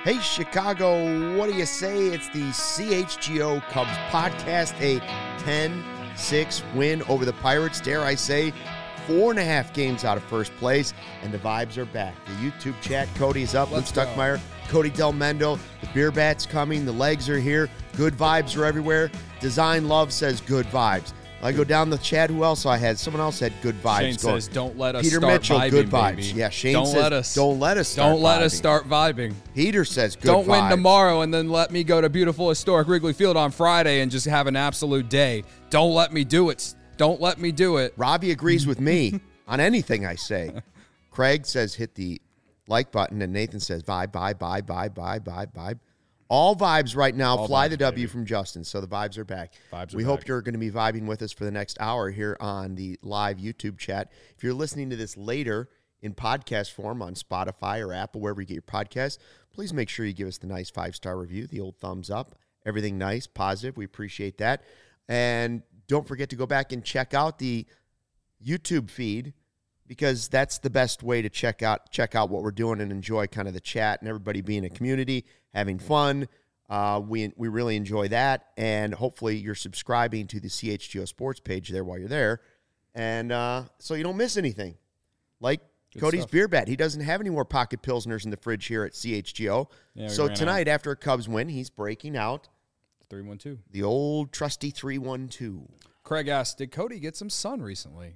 Hey, Chicago, what do you say? It's the CHGO Cubs podcast, a 10-6 win over the Pirates. Dare I say, 4.5 games out of first place, and the vibes are back. The YouTube chat, Cody's up, Luke Stuckmeyer, Cody Del Mendo, the beer bat's coming, the legs are here, good vibes are everywhere. Design Love says good vibes. I go down the chat. Who else I had? Someone else had good vibes. Shane says, "Don't let us Peter start Mitchell, vibing, good vibes. baby. Yeah, Shane don't says, let us, "Don't let us start. Don't let vibing. us start vibing. Peter says, "Good Don't vibes. win tomorrow and then let me go to beautiful historic Wrigley Field on Friday and just have an absolute day. Don't let me do it. Don't let me do it." Robbie agrees with me on anything I say. Craig says, "Hit the like button," and Nathan says, "Vibe." All vibes right now. All Fly vibes, the W baby. from Justin. So the vibes are back. Vibes are we hope back. you're going to be vibing with us for the next hour here on the live YouTube chat. If you're listening to this later in podcast form on Spotify or Apple, wherever you get your podcasts, please make sure you give us the nice 5-star review, the old thumbs up, everything nice, positive. We appreciate that. And don't forget to go back and check out the YouTube feed, because that's the best way to check out what we're doing and enjoy kind of the chat and everybody being a community, having fun. We really enjoy that, and hopefully you're subscribing to the CHGO Sports page there while you're there, and so you don't miss anything. Like Good Cody's stuff. Beer Bat, he doesn't have any more pocket pilsners in the fridge here at CHGO. Yeah, we So ran tonight, after a Cubs win, he's breaking out 3-1-2. the old trusty 3-1-2. Craig asked, "Did Cody get some sun recently?"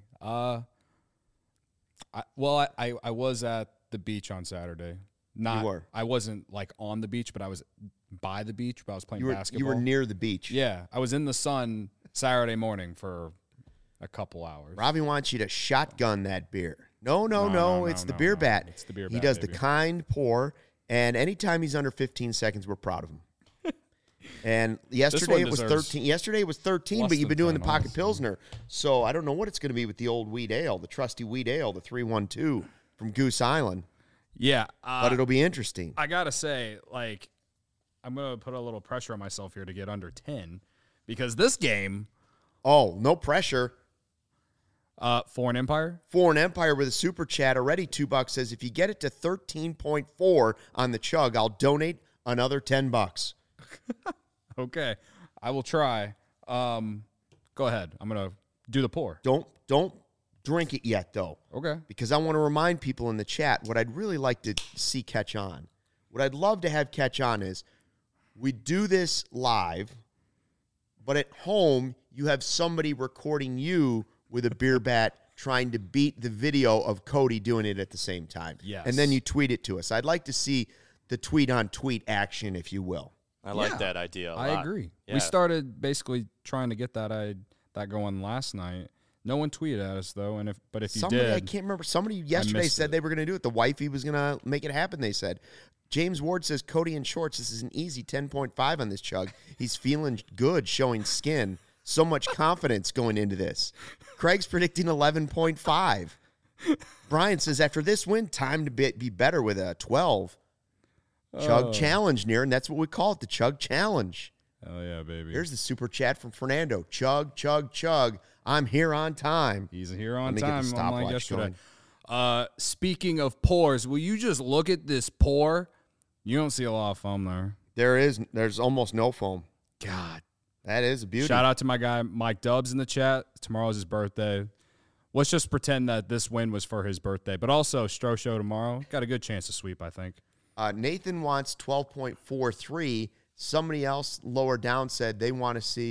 I was at the beach on Saturday. You were. I wasn't like on the beach, but I was by the beach. But I was playing basketball. You were near the beach. Yeah, I was in the sun Saturday morning for a couple hours. Robbie wants you to shotgun that beer. No, it's the no, beer no. bat. It's the beer He bat, does baby. the kind pour, and anytime he's under 15 seconds, we're proud of him. And yesterday it was deserves 13. Yesterday it was 13, less but you've been than doing the 10, pocket honestly. pilsner. So I don't know what it's going to be with the old wheat ale, the trusty wheat ale, the 3-1-2 from Goose Island. Yeah, But it'll be interesting. I gotta say, like, I'm gonna put a little pressure on myself here to get under 10 because this game, Oh, no pressure. Foreign Empire. Foreign Empire with a super chat already. $2 says, if you get it to 13.4 on the chug, I'll donate another $10. Okay, I will try. Go ahead. I'm gonna do the pour. Don't drink it yet, though. Okay. Because I want to remind people in the chat what I'd really like to see catch on. What I'd love to have catch on is we do this live, but at home you have somebody recording you with a beer bat trying to beat the video of Cody doing it at the same time. Yes. And then you tweet it to us. I'd like to see the tweet-on-tweet action, if you will. I like that idea a lot. I agree. Yeah. We started basically trying to get that going last night. No one tweeted at us though, and if you Somebody, did, I can't remember. Somebody yesterday missed said it. they were going to do it. The wifey was going to make it happen, they said. James Ward says, Cody in shorts. This is an easy 10.5 on this chug. He's feeling good, showing skin. So much confidence going into this. Craig's predicting 11.5. Brian says, after this win, time to be better with a 12. Chug challenge near, and that's what we call it, the chug challenge. hell yeah, baby. Here's the super chat from Fernando. Chug, chug, chug. I'm here on time. He's here on Let me get the time, stopwatch unlike yesterday. going. Speaking of pours, will you just look at this pour? You don't see a lot of foam there. There's almost no foam. God. That is a beauty. Shout out to my guy Mike Dubs in the chat. Tomorrow's his birthday. Let's just pretend that this win was for his birthday. But also, Stro Show tomorrow. Got a good chance to sweep, I think. Nathan wants 12.43. Somebody else lower down said they want to see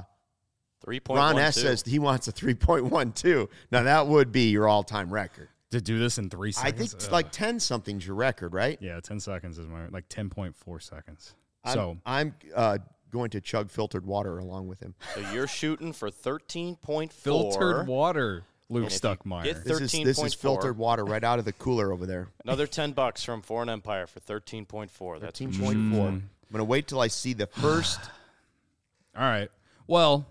3.12. Ron S. says he wants a 3.12. Now, that would be your all-time record. To do this in 3 I seconds? think it's like 10-something's your record, right? Yeah, 10 seconds is my, like 10.4 seconds. I'm going to chug filtered water along with him. So you're shooting for 13.4. Filtered water, Luke And if you Stuckmeyer. get This is 13.4. filtered water right out of the cooler over there. Another $10 from Foreign Empire for 13.4. That's 13.4. I'm going to wait till I see the first All right. Well,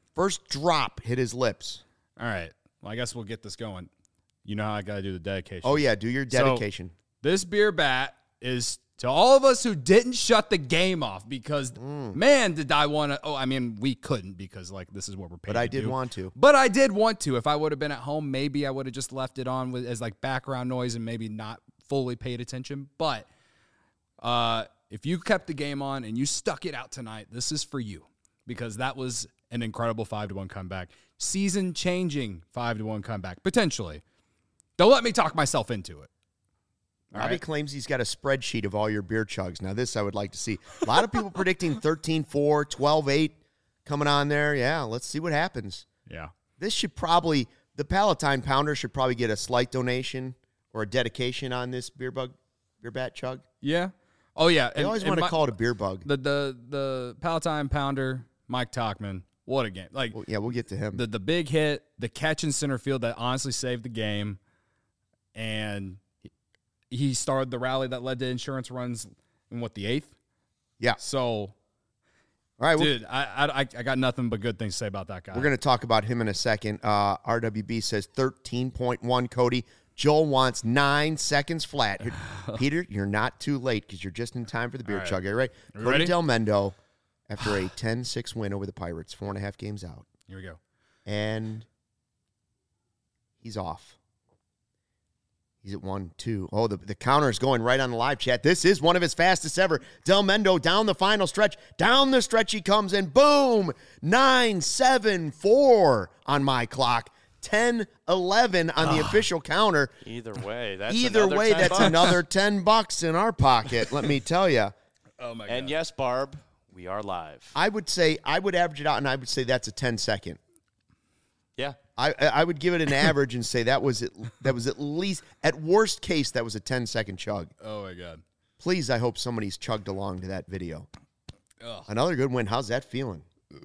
drop hit his lips. all right. Well, I guess we'll get this going. You know how I got to do the dedication. Oh, yeah, do your dedication. This beer bat is to all of us who didn't shut the game off because, man, did I want to. Oh, I mean, we couldn't because, like, this is what we're paid But I to did do. want to. But I did want to. If I would have been at home, maybe I would have just left it on as, like, background noise and maybe not fully paid attention. But If you kept the game on and you stuck it out tonight, this is for you, because that was an incredible 5-1 comeback. Season-changing 5-1 comeback, potentially. Don't let me talk myself into it. Robbie claims he's got a spreadsheet of all your beer chugs. Now, this I would like to see. A lot of people predicting 13-4, 12-8 coming on there. Yeah, let's see what happens. Yeah. This should probably, the Palatine Pounder should probably get a slight donation or a dedication on this beer bat chug. Yeah. Oh, yeah. They always want to call it a beer bug. The Palatine Pounder, Mike Tauchman, what a game. Like, well, yeah, we'll get to him. The big hit, the catch in center field that honestly saved the game, and he started the rally that led to insurance runs in, the 8th? Yeah. So, all right, dude, I got nothing but good things to say about that guy. We're going to talk about him in a second. RWB says 13.1, Cody. Joel wants 9 seconds flat. Peter, you're not too late because you're just in time for the beer chug. All right. Cody ready? Del Mendo, after a 10-6 win over the Pirates, 4.5 games out. Here we go. And he's off. He's at 1-2. Oh, the counter is going right on the live chat. This is one of his fastest ever. Del Mendo down the final stretch. Down the stretch he comes, and boom, 9-7-4 on my clock. 10-11 on the official counter. Either way, that's another $10 in our pocket, let me tell you. Oh, my God. And yes, Barb, we are live. I would average it out, and I would say that's a 10-second. Yeah. I would give it an average and say that was at least, at worst case, that was a 10-second chug. Oh, my God. Please, I hope somebody's chugged along to that video. Ugh. Another good win. How's that feeling?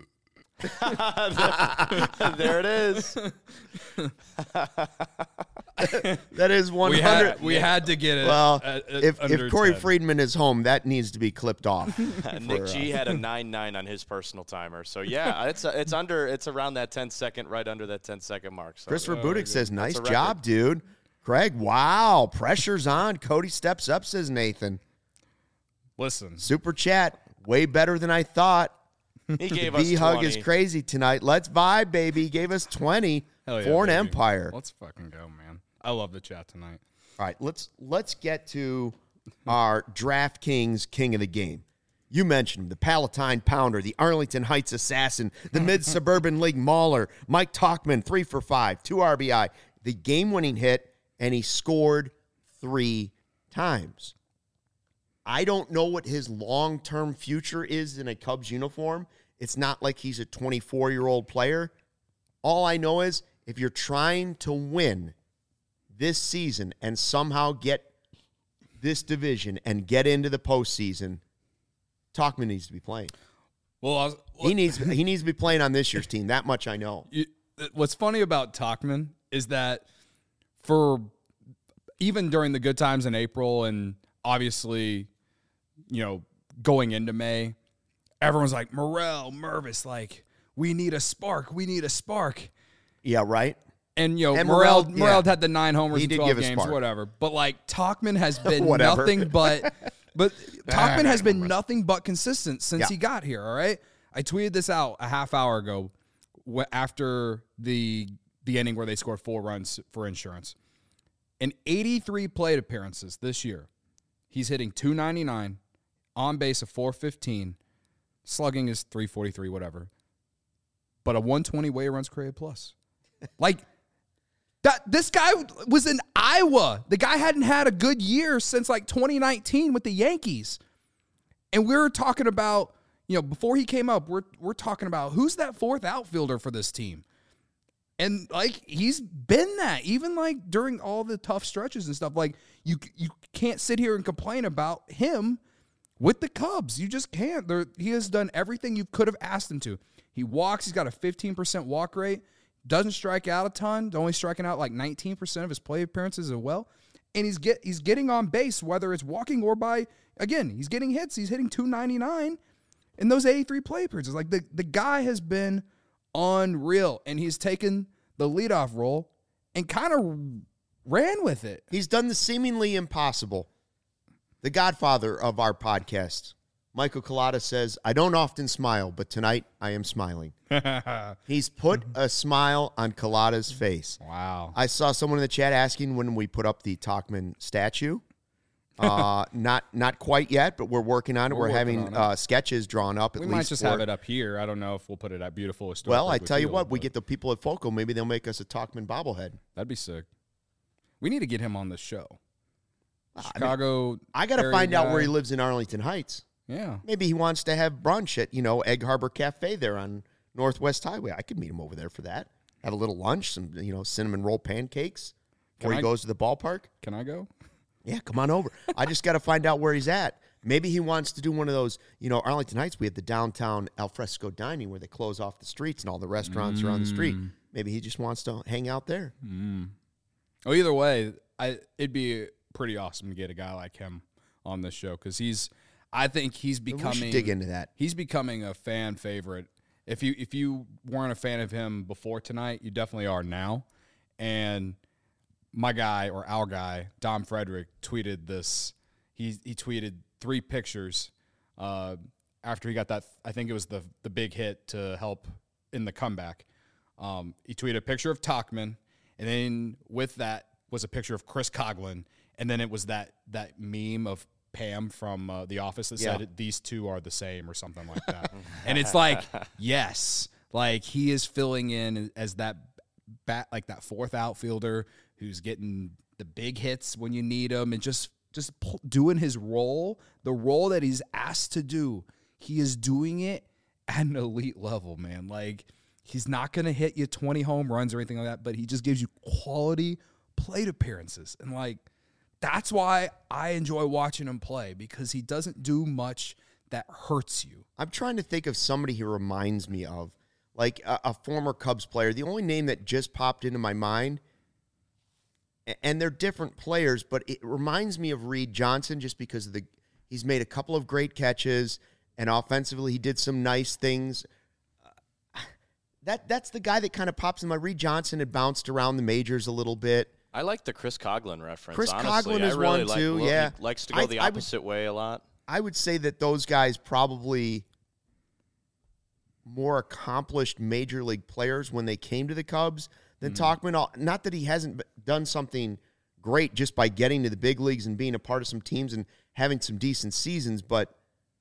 There it is. That is 100. We had to get it. Well, if Corey 10. Friedman is home, that needs to be clipped off. Nick G had a 9-9 on his personal timer. So yeah, it's around that 10-second, right under that 10-second mark. So, Christopher Budick says, "Nice record. job, dude." Craig, wow, pressure's on. Cody steps up, says Nathan. Listen, Super chat, way better than I thought. He gave us V-Hug 20. is crazy tonight. Let's vibe, baby. He gave us 20 hell yeah, for an baby. Empire. Let's fucking go, man. I love the chat tonight. All right, let's get to our DraftKings King of the Game. You mentioned him, the Palatine Pounder, the Arlington Heights Assassin, the Mid-Suburban League Mauler, Mike Tauchman, 3 for 5, 2 RBI, the game-winning hit, and he scored 3 times. I don't know what his long-term future is in a Cubs uniform. It's not like he's a 24-year-old player. All I know is if you're trying to win this season and somehow get this division and get into the postseason, Tauchman needs to be playing. Well, He needs to be playing on this year's team. That much I know. What's funny about Tauchman is that for even during the good times in April and obviously, going into May, everyone's like, Morel, Mervis, like, we need a spark. Yeah, right? And, And Morel yeah. had the 9 homers He in did 12 give a games, spark. whatever. But, like, Tauchman has been Whatever. nothing but Tauchman has been Mervis. nothing but consistent since he got here, all right? I tweeted this out a half hour ago after the inning where they scored 4 runs for insurance. In 83 plate appearances this year, he's hitting .299, on base of .415, slugging is .343, whatever. But a 120 weighted runs created plus. Like, this guy was in Iowa. The guy hadn't had a good year since like 2019 with the Yankees. And we were talking about, before he came up, we're talking about who's that 4th outfielder for this team. And like he's been that even like during all the tough stretches and stuff. Like you can't sit here and complain about him with the Cubs. You just can't. He has done everything you could have asked him to. He walks. He's got a 15% walk rate. Doesn't strike out a ton. Only striking out like 19% of his play appearances as well. And he's getting on base, whether it's walking or by, again, he's getting hits. He's hitting .299 in those 83 play appearances. Like the guy has been unreal, and he's taken the leadoff role and kind of ran with it. He's done the seemingly impossible. The godfather of our podcast, Michael Collada, says, "I don't often smile, but tonight I am smiling." He's put a smile on Collada's face. Wow. I saw someone in the chat asking when we put up the Tauchman statue. Not quite yet, but we're working on it. We're working having sketches drawn up. We might just have it up here. I don't know if we'll put it at Beautiful Historic. Well, I tell you what, we get the people at Foco. Maybe they'll make us a Talkman bobblehead. That'd be sick. We need to get him on the show. Chicago. I got to find out where he lives in Arlington Heights. Yeah. Maybe he wants to have brunch at, Egg Harbor Cafe there on Northwest Highway. I could meet him over there for that. Have a little lunch, some, cinnamon roll pancakes before he goes to the ballpark. Can I go? Yeah, come on over. I just got to find out where he's at. Maybe he wants to do one of those, Arlington Heights, we have the downtown alfresco dining where they close off the streets and all the restaurants are on the street. Maybe he just wants to hang out there. Well, either way, it'd be pretty awesome to get a guy like him on this show because I think he's becoming. We should dig into that. He's becoming a fan favorite. If you weren't a fan of him before tonight, you definitely are now. And my guy or our guy, Dom Frederick, tweeted this. He tweeted 3 pictures after he got that. I think it was the big hit to help in the comeback. He tweeted a picture of Tauchman, and then with that was a picture of Chris Coughlin, and then it was that meme of Pam from The Office that said these two are the same or something like that. And it's like, yes, like he is filling in as that like that fourth outfielder who's getting the big hits when you need them and just doing his role, the role that he's asked to do. He is doing it at an elite level, man. Like he's not going to hit you 20 home runs or anything like that, but he just gives you quality plate appearances. And like, that's why I enjoy watching him play because he doesn't do much that hurts you. I'm trying to think of somebody he reminds me of, like a former Cubs player. The only name that just popped into my mind, and they're different players, but it reminds me of Reed Johnson just because of he's made a couple of great catches, and offensively he did some nice things. That's the guy that kind of pops in my. Reed Johnson had bounced around the majors a little bit. I like the Chris Coughlin reference. Chris honestly. Coughlin is really one too. Yeah, he likes to go the opposite way a lot. I would say that those guys probably more accomplished major league players when they came to the Cubs than Tauchman. Not that he hasn't done something great just by getting to the big leagues and being a part of some teams and having some decent seasons, but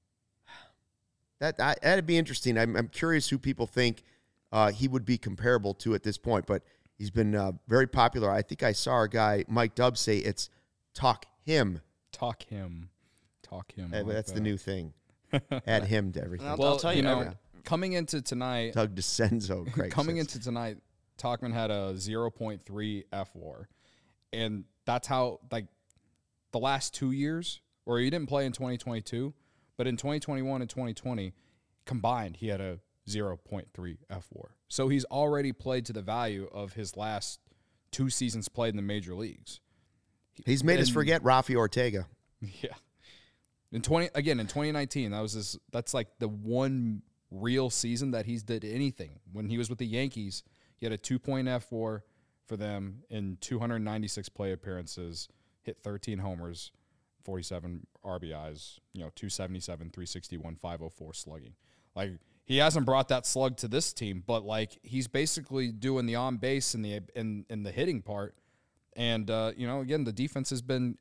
that'd be interesting. I'm curious who people think he would be comparable to at this point, but he's been very popular. I think I saw our guy Mike Dubbs say it's talk him. Talk him. That's the new thing. Add him to everything. I'll tell you, coming into tonight, Doug DeCenzo. Into tonight, Tauchman had a 0.3 FWAR, and that's how like the last 2 years, or he didn't play in 2022, but in 2021 and 2020 combined, he had a 0.3 FWAR. So he's already played to the value of his last 2 seasons played in the major leagues. He's made us forget Rafi Ortega. Yeah. In 2019, that's like the one real season that he's did anything. When he was with the Yankees, he had a 2-point FWAR for them in 296 play appearances, hit 13 homers, 47 RBIs, 277, 361, 504 slugging. Like he hasn't brought that slug to this team, but like he's basically doing the on base and the hitting part. And again, the defense has been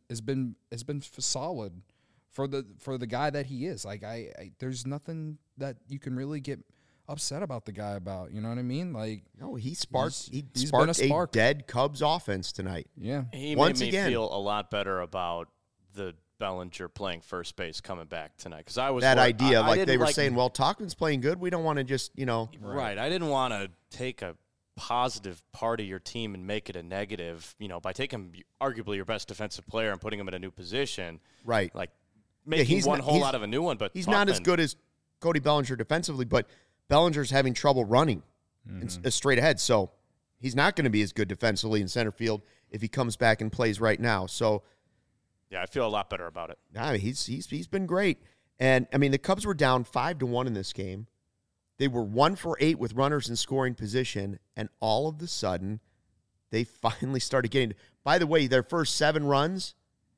solid for the guy that he is. Like there's nothing that you can really get upset about the guy about. You know what I mean? Like no, he sparked a dead Cubs offense tonight. Yeah, he made me feel a lot better about the Bellinger playing first base coming back tonight because I was that idea like they were saying, well, Tauchman's playing good. We don't want to just right. I didn't want to take a positive part of your team and make it a negative, by taking arguably your best defensive player and putting him in a new position. Right. Like making one hole out of a new one, but he's not as good as Cody Bellinger defensively, but Bellinger's having trouble running straight ahead. So he's not going to be as good defensively in center field if he comes back and plays right now. So yeah, I feel a lot better about it. Nah, he's been great. And I mean, the Cubs were down 5-1 in this game. They were 1 for 8 with runners in scoring position, and all of a sudden, they finally started getting. By the way, their first 7 runs,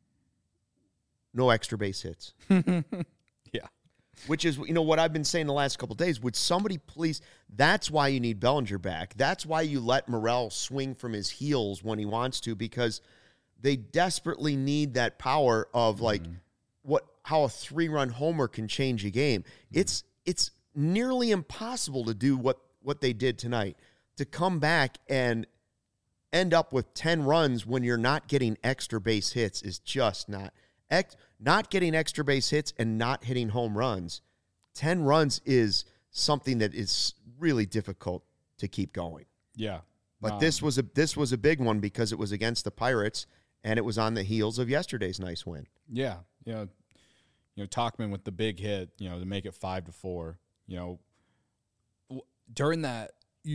no extra base hits. Yeah, which is what I've been saying the last couple of days. Would somebody please? That's why you need Bellinger back. That's why you let Morel swing from his heels when he wants to, because they desperately need that power of like how a 3-run homer can change a game. It's nearly impossible to do what they did tonight, to come back and end up with 10 runs when you're not getting extra base hits is just not getting extra base hits and not hitting home runs. 10 runs is something that is really difficult to keep going. Yeah. But this was a big one because it was against the Pirates and it was on the heels of yesterday's nice win. Yeah. You know, Tauchman with the big hit, to make it 5-4. During that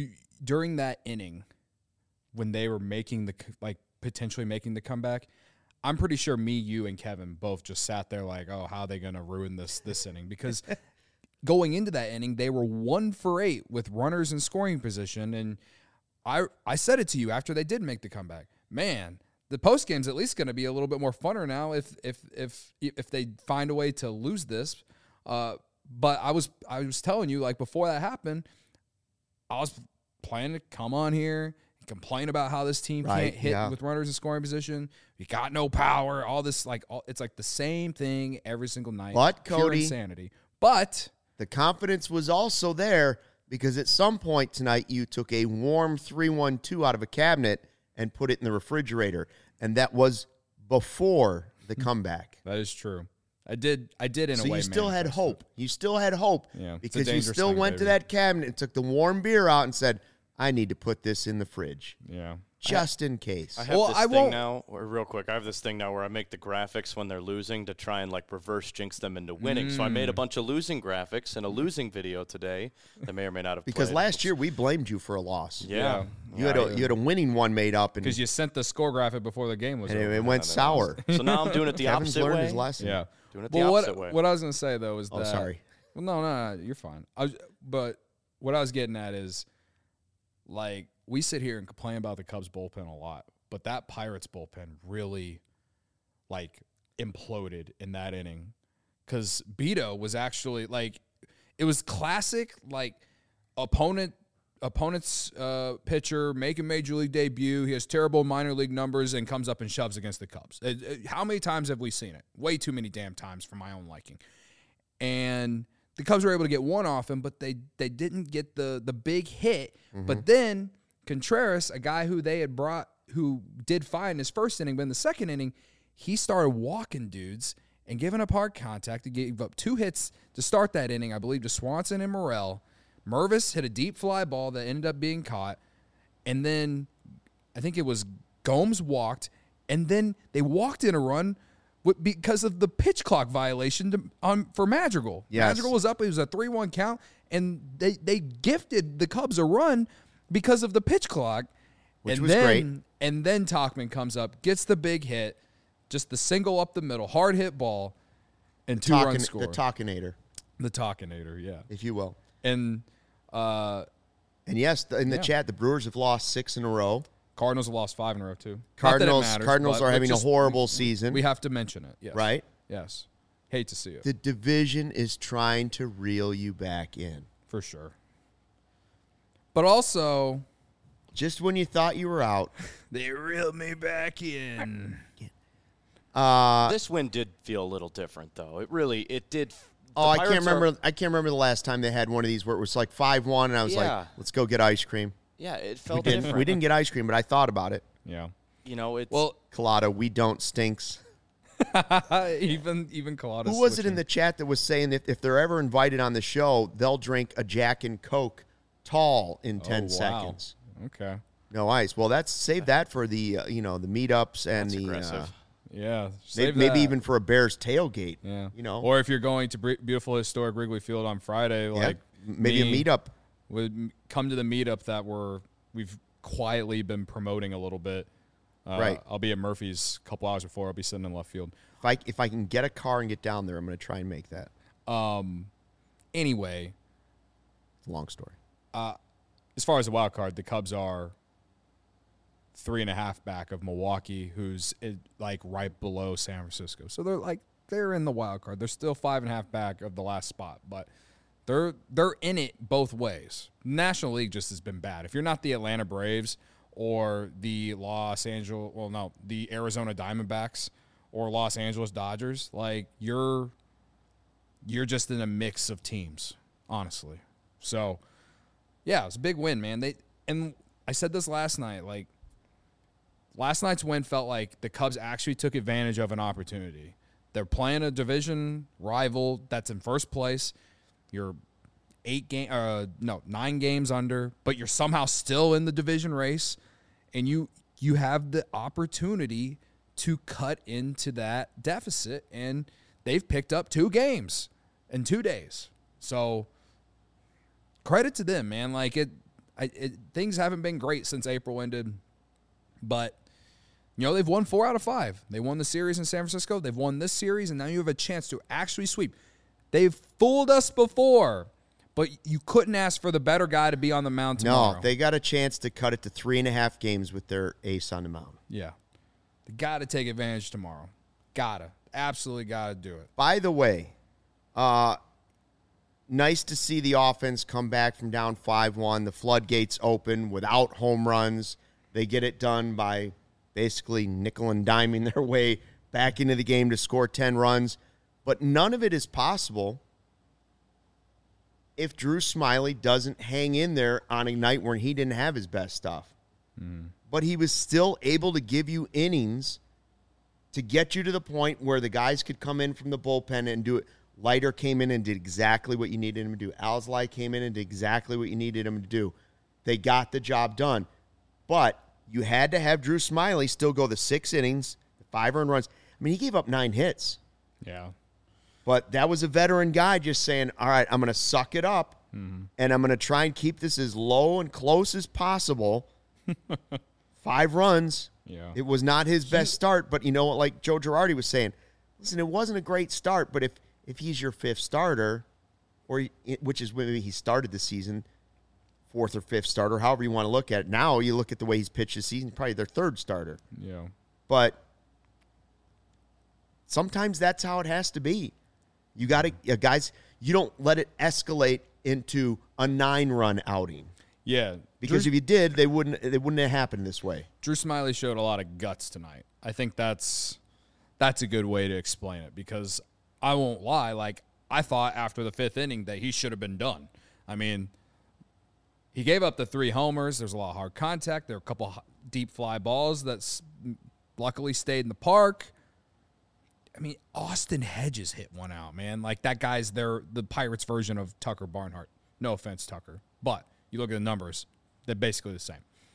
inning when they were potentially making the comeback, I'm pretty sure me, you, and Kevin both just sat there like, oh, how are they going to ruin this inning? Because going into that inning, they were 1 for 8 with runners in scoring position, and I said it to you after they did make the comeback. Man, the post game's at least going to be a little bit more funner now if they find a way to lose this. But I was telling you, like, before that happened, I was planning to come on here and complain about how this team can't hit with runners in scoring position. You got no power. All this, it's like the same thing every single night. But pure Cody, insanity. But the confidence was also there because at some point tonight you took a warm 3-1-2 out of a cabinet and put it in the refrigerator, and that was before the comeback. That is true. I did in a way. So you still had hope. You still had hope because you still went to baby. that cabinet and took the warm beer out and said, I need to put this in the fridge. Yeah. Just in case. I have this thing now, or real quick, I have this thing now where I make the graphics when they're losing to try and reverse jinx them into winning. So I made a bunch of losing graphics and a losing video today that may or may not have because played. last year we blamed you for a loss. Yeah. You had a winning one made up. Because you sent the score graphic before the game was over. It went sour. So now I'm doing it the Kevin's opposite learned way. his lesson. Yeah. Doing it the opposite way. What I was going to say, though, is that... Oh, sorry. Well, no, you're fine. But what I was getting at is, we sit here and complain about the Cubs bullpen a lot, but that Pirates bullpen really, imploded in that inning. Because Beto was actually, it was classic, opponent's pitcher making major league debut. He has terrible minor league numbers and comes up and shoves against the Cubs. How many times have we seen it? Way too many damn times for my own liking. And the Cubs were able to get one off him, but they didn't get the big hit. Mm-hmm. But then Contreras, a guy who they had brought, who did fine in his first inning, but in the second inning, he started walking dudes and giving up hard contact. He gave up 2 hits to start that inning, I believe, to Swanson and Morel. Mervis hit a deep fly ball that ended up being caught. And then I think it was Gomes walked. And then they walked in a run because of the pitch clock violation for Madrigal. Yes. Madrigal was up. It was a 3-1 count. And they gifted the Cubs a run because of the pitch clock. Which was great. And then Tauchman comes up, gets the big hit, just the single up the middle, hard hit ball, and 2-run score. The Talkinator. The Talkinator, yeah. If you will. And yes, in the chat, the Brewers have lost 6 in a row. Cardinals have lost 5 in a row, too. Cardinals are having a horrible season. We have to mention it, yes. Right? Yes. Hate to see it. The division is trying to reel you back in. For sure. But also... just when you thought you were out. They reeled me back in. This win did feel a little different, though. It did... I can't remember the last time they had one of these where it was 5-1, and I was like, let's go get ice cream. Yeah, it felt different. We didn't get ice cream, but I thought about it. Yeah. It's... Well, Collado, we don't stinks. even Collado. Who was it in the chat that was saying that if they're ever invited on the show, they'll drink a Jack and Coke tall in 10 seconds? Okay. No ice. Well, save that for the the meetups and That's the aggressive. Yeah, maybe even for a Bears tailgate. Yeah, or if you're going to beautiful historic Wrigley Field on Friday, maybe a meetup. Would come to the meetup that we've quietly been promoting a little bit. Right. I'll be at Murphy's a couple hours before. I'll be sitting in left field. If I can get a car and get down there, I'm going to try and make that. Anyway, it's a long story. As far as the wild card, the Cubs are 3.5 back of Milwaukee, who's right below San Francisco. So they're in the wild card. They're still 5.5 back of the last spot, but they're in it both ways. National League just has been bad. If you're not the Atlanta Braves or the the Arizona Diamondbacks or Los Angeles Dodgers. Like, you're just in a mix of teams, honestly. So, yeah, it was a big win, man. And I said this last night, like, last night's win felt like the Cubs actually took advantage of an opportunity. They're playing a division rival that's in first place. You're 9 games under, but you're somehow still in the division race, and you have the opportunity to cut into that deficit, and they've picked up 2 games in 2 days. So credit to them, man. Like, things haven't been great since April ended, but they've won 4 out of 5. They won the series in San Francisco. They've won this series, and now you have a chance to actually sweep. They've fooled us before, but you couldn't ask for the better guy to be on the mound tomorrow. No, they got a chance to cut it to 3.5 games with their ace on the mound. Yeah. They got to take advantage tomorrow. Absolutely got to do it. By the way, nice to see the offense come back from down 5-1. The floodgates open without home runs. They get it done by basically nickel and diming their way back into the game to score 10 runs. But none of it is possible if Drew Smyly doesn't hang in there on a night where he didn't have his best stuff. But he was still able to give you innings to get you to the point where the guys could come in from the bullpen and do it. Leiter came in and did exactly what you needed him to do. Alzolay came in and did exactly what you needed him to do. They got the job done. But you had to have Drew Smyly still go the 6 innings, the 5 earned runs. I mean, he gave up 9 hits. Yeah. But that was a veteran guy just saying, all right, I'm going to suck it up, and I'm going to try and keep this as low and close as possible. 5 runs. Yeah. It was not his best start, but you know what, like Joe Girardi was saying, listen, it wasn't a great start, but if he's your 5th starter, which is maybe he started the season, 4th or 5th starter, however you want to look at it. Now you look at the way he's pitched this season, probably their 3rd starter. Yeah. But sometimes that's how it has to be. You got to, guys, you don't let it escalate into a 9-run outing. Yeah. Because if you did, they wouldn't have happened this way. Drew Smyly showed a lot of guts tonight. I think that's a good way to explain it, because I won't lie, like, I thought after the 5th inning that he should have been done. I mean, he gave up the 3 homers. There's a lot of hard contact. There were a couple deep fly balls that luckily stayed in the park. I mean, Austin Hedges hit one out, man. Like, that guy's the Pirates version of Tucker Barnhart. No offense, Tucker. But you look at the numbers, they're basically the same.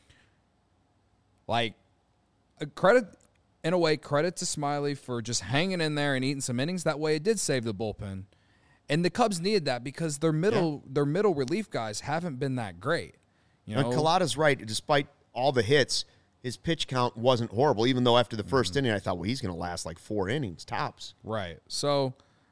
Like, credit to Smyly for just hanging in there and eating some innings. That way it did save the bullpen. And the Cubs needed that because their middle relief guys haven't been that great. And Collada's right. Despite all the hits, his pitch count wasn't horrible, even though after the first inning I thought, well, he's going to last like 4 innings tops. Right. So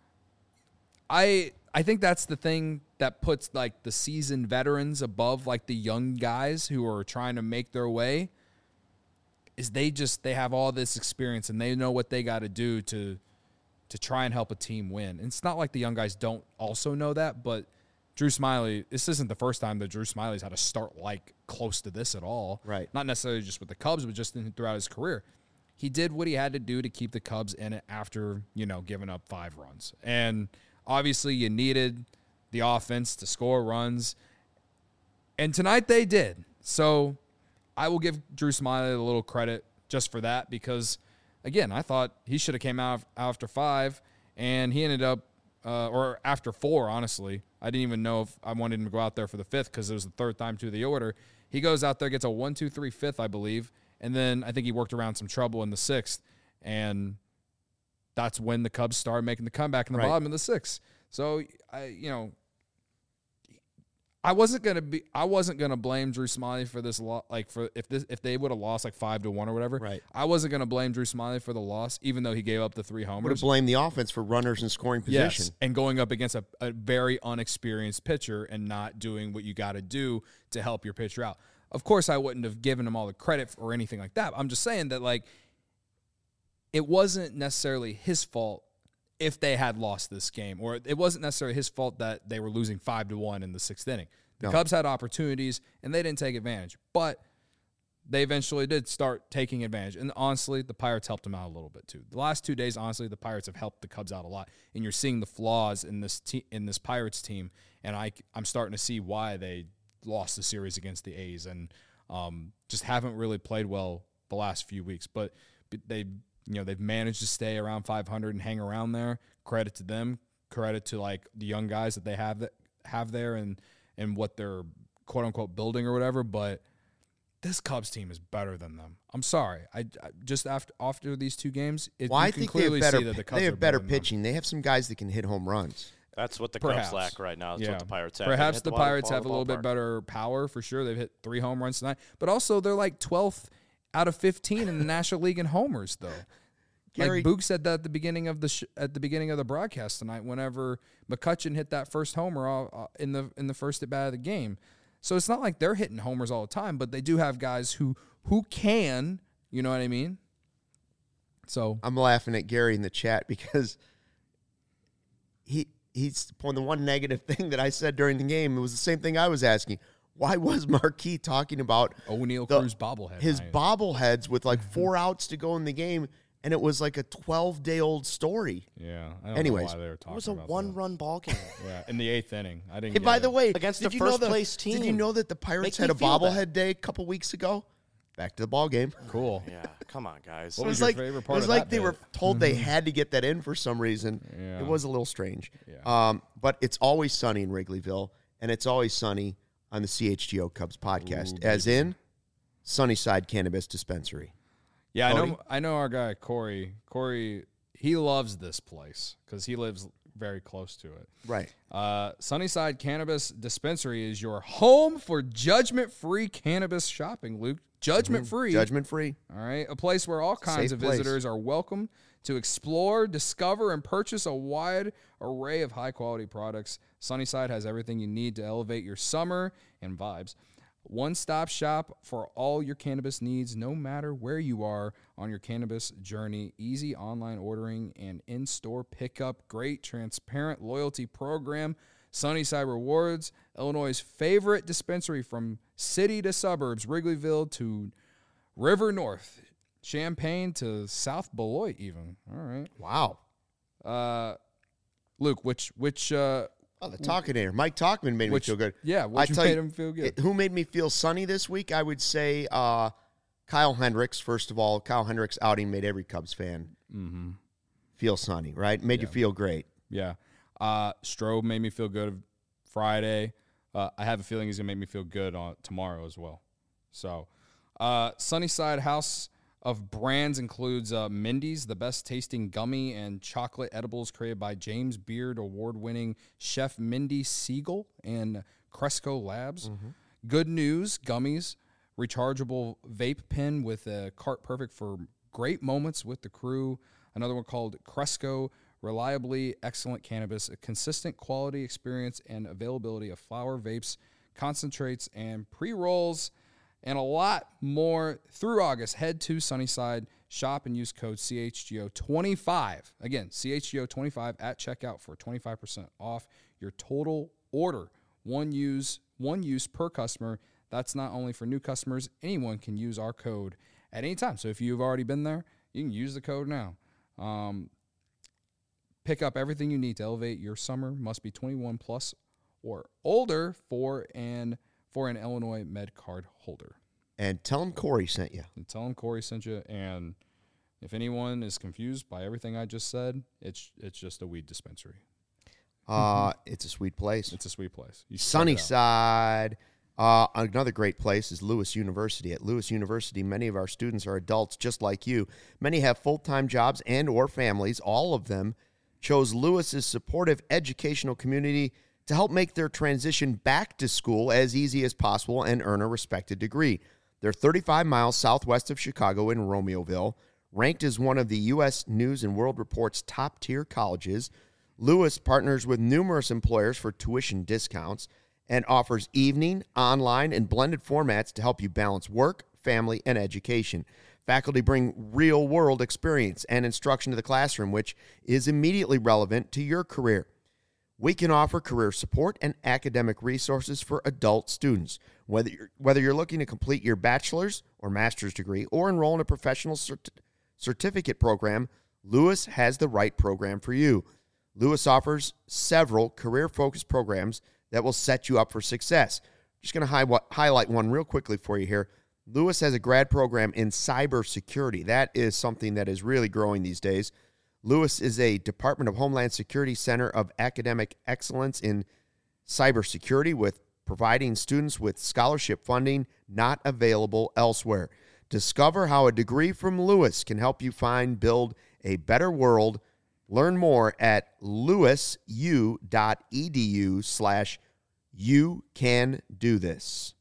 I think that's the thing that puts, like, the seasoned veterans above, like, the young guys who are trying to make their way, is they have all this experience and they know what they got to do to try and help a team win. And it's not like the young guys don't also know that, but Drew Smyly, this isn't the first time that Drew Smyly's had a start like close to this at all. Right. Not necessarily just with the Cubs, but just throughout his career. He did what he had to do to keep the Cubs in it after, giving up 5 runs. And obviously you needed the offense to score runs. And tonight they did. So I will give Drew Smyly a little credit just for that, because, again, I thought he should have came out after 5, and he ended up, or after 4, honestly. I didn't even know if I wanted him to go out there for the 5th because it was the 3rd time through the order. He goes out there, gets a 1-2-3 5th, I believe, and then I think he worked around some trouble in the 6th, and that's when the Cubs started making the comeback in the bottom of the 6th. So, I wasn't gonna blame Drew Smyly for this loss. Like, if they would have lost like 5-1 or whatever. Right. I wasn't gonna blame Drew Smyly for the loss, even though he gave up the 3 homers. Would have blamed the offense for runners in scoring position. Yes, and going up against a very unexperienced pitcher and not doing what you got to do to help your pitcher out. Of course, I wouldn't have given him all the credit or anything like that. I'm just saying that, like, it wasn't necessarily his fault if they had lost this game, or it wasn't necessarily his fault that they were losing 5-1 in the 6th inning. The Cubs had opportunities, and they didn't take advantage. But they eventually did start taking advantage. And honestly, the Pirates helped them out a little bit too. The last 2 days, honestly, the Pirates have helped the Cubs out a lot. And you're seeing the flaws in this Pirates team. And I'm starting to see why they lost the series against the A's and just haven't really played well the last few weeks. But they've managed to stay around 500 and hang around there. Credit to them. Credit to like the young guys that they have there and what they're quote unquote building or whatever. But this Cubs team is better than them. I'm sorry. I just after these 2 games, I you can think clearly see that the Cubs they have are better than pitching. They have some guys that can hit home runs. That's what the Perhaps. Cubs lack right now. That's what the Pirates have. Perhaps the Pirates ball have a little bit ballpark. better power for sure. They've hit 3 home runs tonight, but also they're like 12th out of 15 in the National League in homers, though. Gary, Like Boog said that at the beginning of the broadcast tonight, whenever McCutchen hit that first homer in the first at bat of the game. So it's not like they're hitting homers all the time, but they do have guys who can, you know what I mean? So I'm laughing at Gary in the chat because he's the one negative thing that I said during the game. It was the same thing I was asking. Why was Marquis talking about O'Neal Cruz bobblehead? his bobbleheads with like 4 outs to go in the game, and it was like a 12-day-old story. Yeah. I don't Anyways, know why they were talking It was a about one-run ball game. that. Yeah, in the 8th inning. I didn't. Hey, by the way, Against did the you know first-place team. Did you know that the Pirates Make had me a feel bad. bobblehead day a couple weeks ago? Back to the ball game. cool. Yeah, come on, guys. What It was was your like favorite it part was of like that they bit? were told they had to get that in for some reason. Yeah. It was a little strange. Yeah. But it's always sunny in Wrigleyville, and it's always sunny on the CHGO Cubs podcast, as in Sunnyside Cannabis Dispensary. Yeah, Cody? I know our guy Corey. Corey, he loves this place because he lives very close to it. Right. Sunnyside Cannabis Dispensary is your home for judgment-free cannabis shopping, Luke. Judgment-free. Judgment-free. All right. A place where all kinds Safe of place. visitors are welcome to explore, discover, and purchase a wide array of high-quality products. Sunnyside has everything you need to elevate your summer and vibes. One-stop shop for all your cannabis needs, no matter where you are on your cannabis journey. Easy online ordering and in-store pickup. Great, transparent loyalty program. Sunnyside Rewards, Illinois' favorite dispensary from city to suburbs, Wrigleyville to River North, Champaign to South Beloit even. All right. Wow. Luke, which Oh, the Talkinator. Mike Talkman made me feel good. Yeah, I what tell made you, him feel good? Who made me feel sunny this week? I would say Kyle Hendricks. First of all, Kyle Hendricks' outing made every Cubs fan feel sunny, right? Made you feel great. Yeah. Strobe made me feel good Friday. I have a feeling he's going to make me feel good on tomorrow as well. So, Sunnyside House of Brands includes Mindy's, the best tasting gummy and chocolate edibles created by James Beard award-winning chef Mindy Siegel and Cresco Labs. Good News Gummies, rechargeable vape pen with a cart perfect for great moments with the crew. Another one called Cresco, reliably excellent cannabis, a consistent quality experience and availability of flower, vapes, concentrates, and pre-rolls, and a lot more through August. Head to Sunnyside, shop, and use code CHGO25. Again, CHGO25 at checkout for 25% off your total order. One use per customer. That's not only for new customers. Anyone can use our code at any time. So if you've already been there, you can use the code now. Pick up everything you need to elevate your summer. Must be 21 plus or older for an Illinois Med Card holder. And tell him Corey sent you. And tell them Corey sent you. And if anyone is confused by everything I just said, it's just a weed dispensary. It's a sweet place. It's a sweet place. You should check it out. Sunnyside. Another great place is Lewis University. At Lewis University, many of our students are adults just like you. Many have full-time jobs and or families. All of them chose Lewis's supportive educational community to help make their transition back to school as easy as possible and earn a respected degree. They're 35 miles southwest of Chicago in Romeoville. Ranked as one of the U.S. News and World Report's top-tier colleges, Lewis partners with numerous employers for tuition discounts and offers evening, online, and blended formats to help you balance work, family, and education. Faculty bring real-world experience and instruction to the classroom, which is immediately relevant to your career. We can offer career support and academic resources for adult students. Whether you're looking to complete your bachelor's or master's degree or enroll in a professional certificate program, Lewis has the right program for you. Lewis offers several career-focused programs that will set you up for success. Just going to highlight one real quickly for you here. Lewis has a grad program in cybersecurity. That is something that is really growing these days. Lewis is a Department of Homeland Security Center of Academic Excellence in cybersecurity, with providing students with scholarship funding not available elsewhere. Discover how a degree from Lewis can help you build a better world. Learn more at lewisu.edu/you-can-do-this.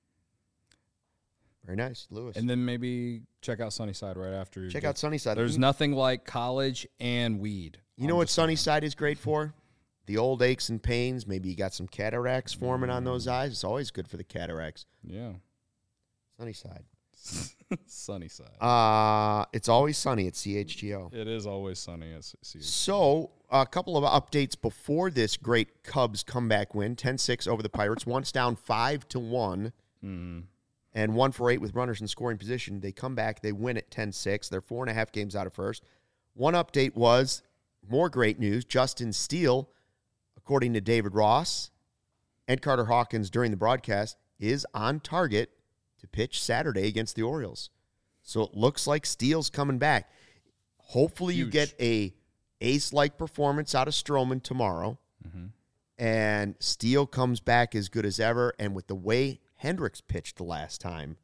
Very nice, Lewis. And then maybe check out Sunnyside right after. Check out Sunnyside. There's nothing like college and weed. You know what Sunnyside is great for? The old aches and pains. Maybe you got some cataracts forming on those eyes. It's always good for the cataracts. Yeah. Sunnyside. Sunnyside. It's always sunny at CHGO. It is always sunny at CHGO. So, a couple of updates before this great Cubs comeback win. 10-6 over the Pirates. Once down 5-1. And 1-for-8 with runners in scoring position. They come back. They win at 10-6. They're 4.5 games out of first. One update was, more great news, Justin Steele, according to David Ross and Carter Hawkins during the broadcast, is on target to pitch Saturday against the Orioles. So it looks like Steele's coming back. Hopefully you get a ace-like performance out of Stroman tomorrow. And Steele comes back as good as ever. And with the way Hendricks pitched the last time,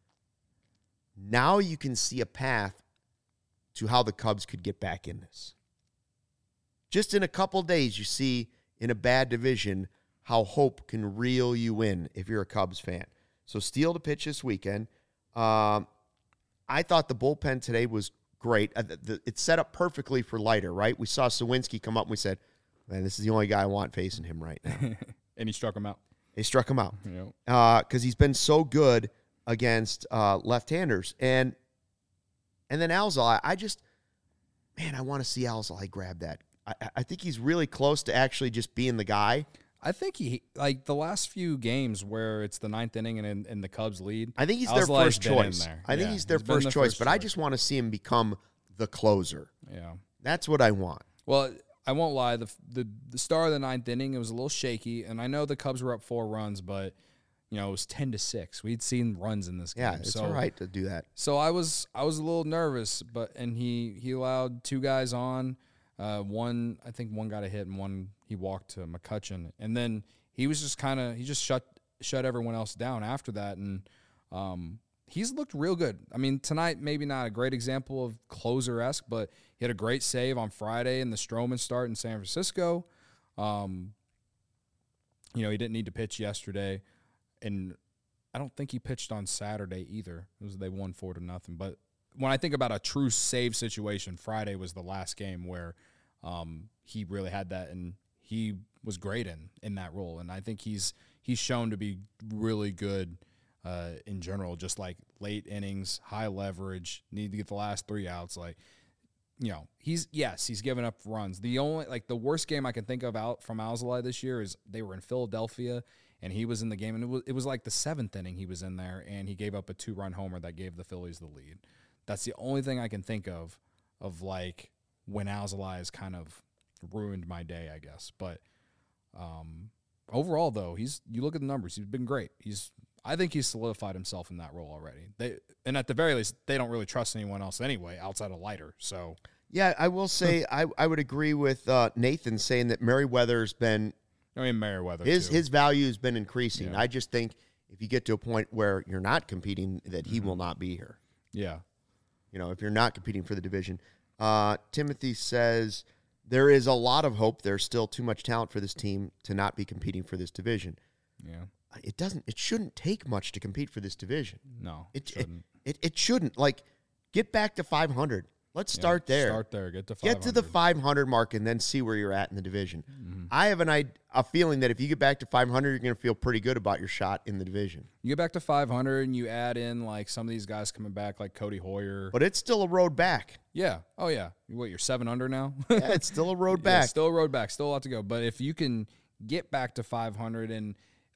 now you can see a path to how the Cubs could get back in this. Just in a couple days, you see in a bad division how hope can reel you in if you're a Cubs fan. So Steele to pitch this weekend. I thought the bullpen today was great. It's set up perfectly for Leiter, right? We saw Sawinski come up and we said, man, this is the only guy I want facing him right now. And he struck him out. They struck him out Yep. Because he's been so good against left-handers. And then Alzolay, I want to see Alzolay grab that. I think he's really close to actually just being the guy. I think he, like the last few games where it's the ninth inning and the Cubs lead. I think he's their Alzolay's first been choice. in there. I think Yeah, he's their he's been first the choice, first but I choice. just want to see him become the closer. Yeah. That's what I want. Well, I won't lie. The start of the ninth inning, it was a little shaky, and I know the Cubs were up 4 runs, but it was 10-6. We'd seen runs in this game. Yeah, it's all right to do that. So I was a little nervous, and he allowed 2 guys on. I think one got a hit and one he walked to McCutchen, and then he was just he just shut everyone else down after that, and he's looked real good. I mean, tonight maybe not a great example of closer-esque, but he had a great save on Friday in the Stroman start in San Francisco. He didn't need to pitch yesterday, and I don't think he pitched on Saturday either. They won 4-0. But when I think about a true save situation, Friday was the last game where he really had that, and he was great in that role. And I think he's shown to be really good in general, just like late innings, high leverage, need to get the last 3 outs. He's given up runs. The worst game I can think of out from Alzolay this year is they were in Philadelphia and he was in the game, and it was like the 7th inning he was in there, and he gave up a 2-run homer that gave the Phillies the lead. That's the only thing I can think of like when Alzolay has kind of ruined my day, I guess. But overall, though, you look at the numbers, he's been great. I think he's solidified himself in that role already. And at the very least, they don't really trust anyone else anyway outside of Leiter. So yeah, I will say I would agree with Nathan saying that Merriweather's been. I mean, Merriweather his value has been increasing. Yeah. I just think if you get to a point where you're not competing, that he will not be here. Yeah. If you're not competing for the division. Timothy says there is a lot of hope. There's still too much talent for this team to not be competing for this division. Yeah. It shouldn't take much to compete for this division. No, it shouldn't. Like, get back to 500. Let's start there. Start there. Get to 500. Get to the 500 mark and then see where you're at in the division. Mm-hmm. I have a feeling that if you get back to 500, you're going to feel pretty good about your shot in the division. You get back to 500 and you add in like some of these guys coming back, like Cody Hoyer. But it's still a road back. Yeah. Oh yeah. You're 7 under now. Yeah, it's still a road back. Still a road back. Still a lot to go. But if you can get back to 500, and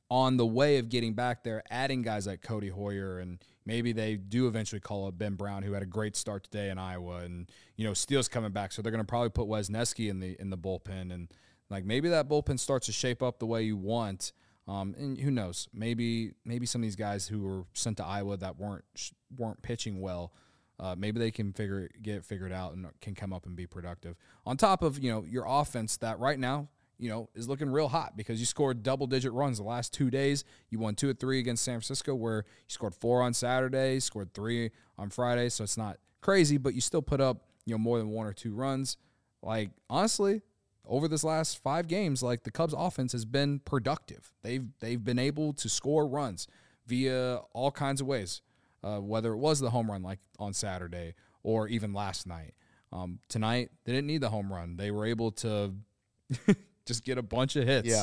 on the way of getting back there, adding guys like Cody Hoyer, and maybe they do eventually call up Ben Brown, who had a great start today in Iowa, and Steele's coming back, so they're going to probably put Wesneski in the bullpen, and like maybe that bullpen starts to shape up the way you want. And who knows? Maybe some of these guys who were sent to Iowa that weren't pitching well, maybe they can get it figured out and can come up and be productive. On top of your offense that right now is looking real hot because you scored double-digit runs the last 2 days. You won 2 of 3 against San Francisco, where you scored 4 on Saturday, scored 3 on Friday. So it's not crazy, but you still put up more than 1 or 2 runs. Like honestly, over this last 5 games, like the Cubs offense has been productive. They've been able to score runs via all kinds of ways, whether it was the home run like on Saturday or even last night. Tonight, they didn't need the home run. They were able to just get a bunch of hits,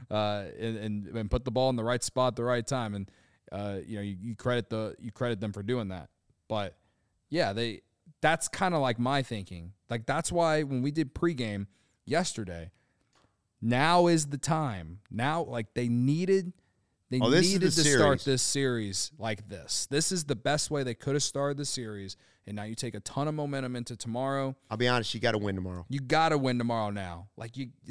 and put the ball in the right spot at the right time. And you credit them for doing that. But yeah, that's kind of like my thinking. Like that's why when we did pregame yesterday, now is the time. Now, like they needed to start this series like this. This is the best way they could have started the series. And now you take a ton of momentum into tomorrow. I'll be honest, you got to win tomorrow. You got to win tomorrow now. Like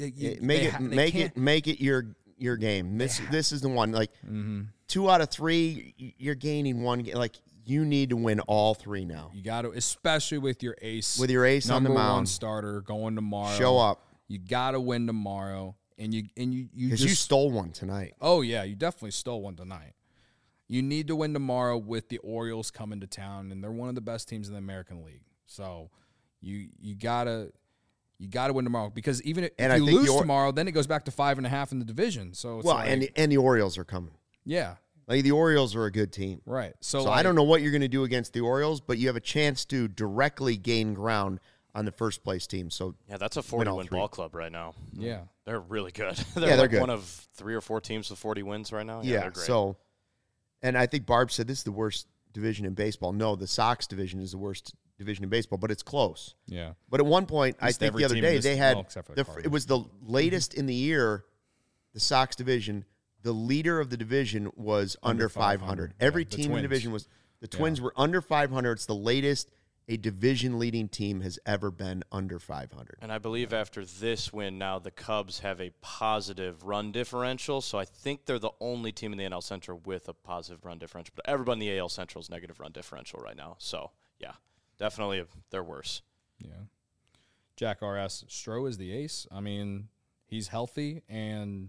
make it your game. This is the one. Like 2 out of 3, you're gaining 1 game. Like you need to win all 3 now. You got to, especially with your ace on the mound, number 1 starter going tomorrow. Show up. You got to win tomorrow, and you because you stole one tonight. Oh yeah, you definitely stole one tonight. You need to win tomorrow with the Orioles coming to town, and they're one of the best teams in the American League. So you gotta win tomorrow because even if you lose tomorrow, then it goes back to 5.5 in the division. So it's and the Orioles are coming. Yeah. Like the Orioles are a good team. Right. So I don't know what you're going to do against the Orioles, but you have a chance to directly gain ground on the first place team. So yeah, that's a 40-win ball club right now. Yeah. They're really good. They're good. One of 3 or 4 teams with 40 wins right now. Yeah, they're great. So, and I think Barb said this is the worst division in baseball. No, the Sox division is the worst division in baseball, but it's close. Yeah. But at one point, I think the other day, they had, it was the latest Mm-hmm. in the year, the Sox division, the leader of the division was under 500. Every team in the division was, the Twins were under 500. It's the latest a division-leading team has ever been under 500. And I believe after this win, now the Cubs have a positive run differential, so I think they're the only team in the NL Central with a positive run differential. But everybody in the AL Central is negative run differential right now. So, yeah, definitely they're worse. Yeah. Jack R.S. Stroh is the ace. I mean, he's healthy, and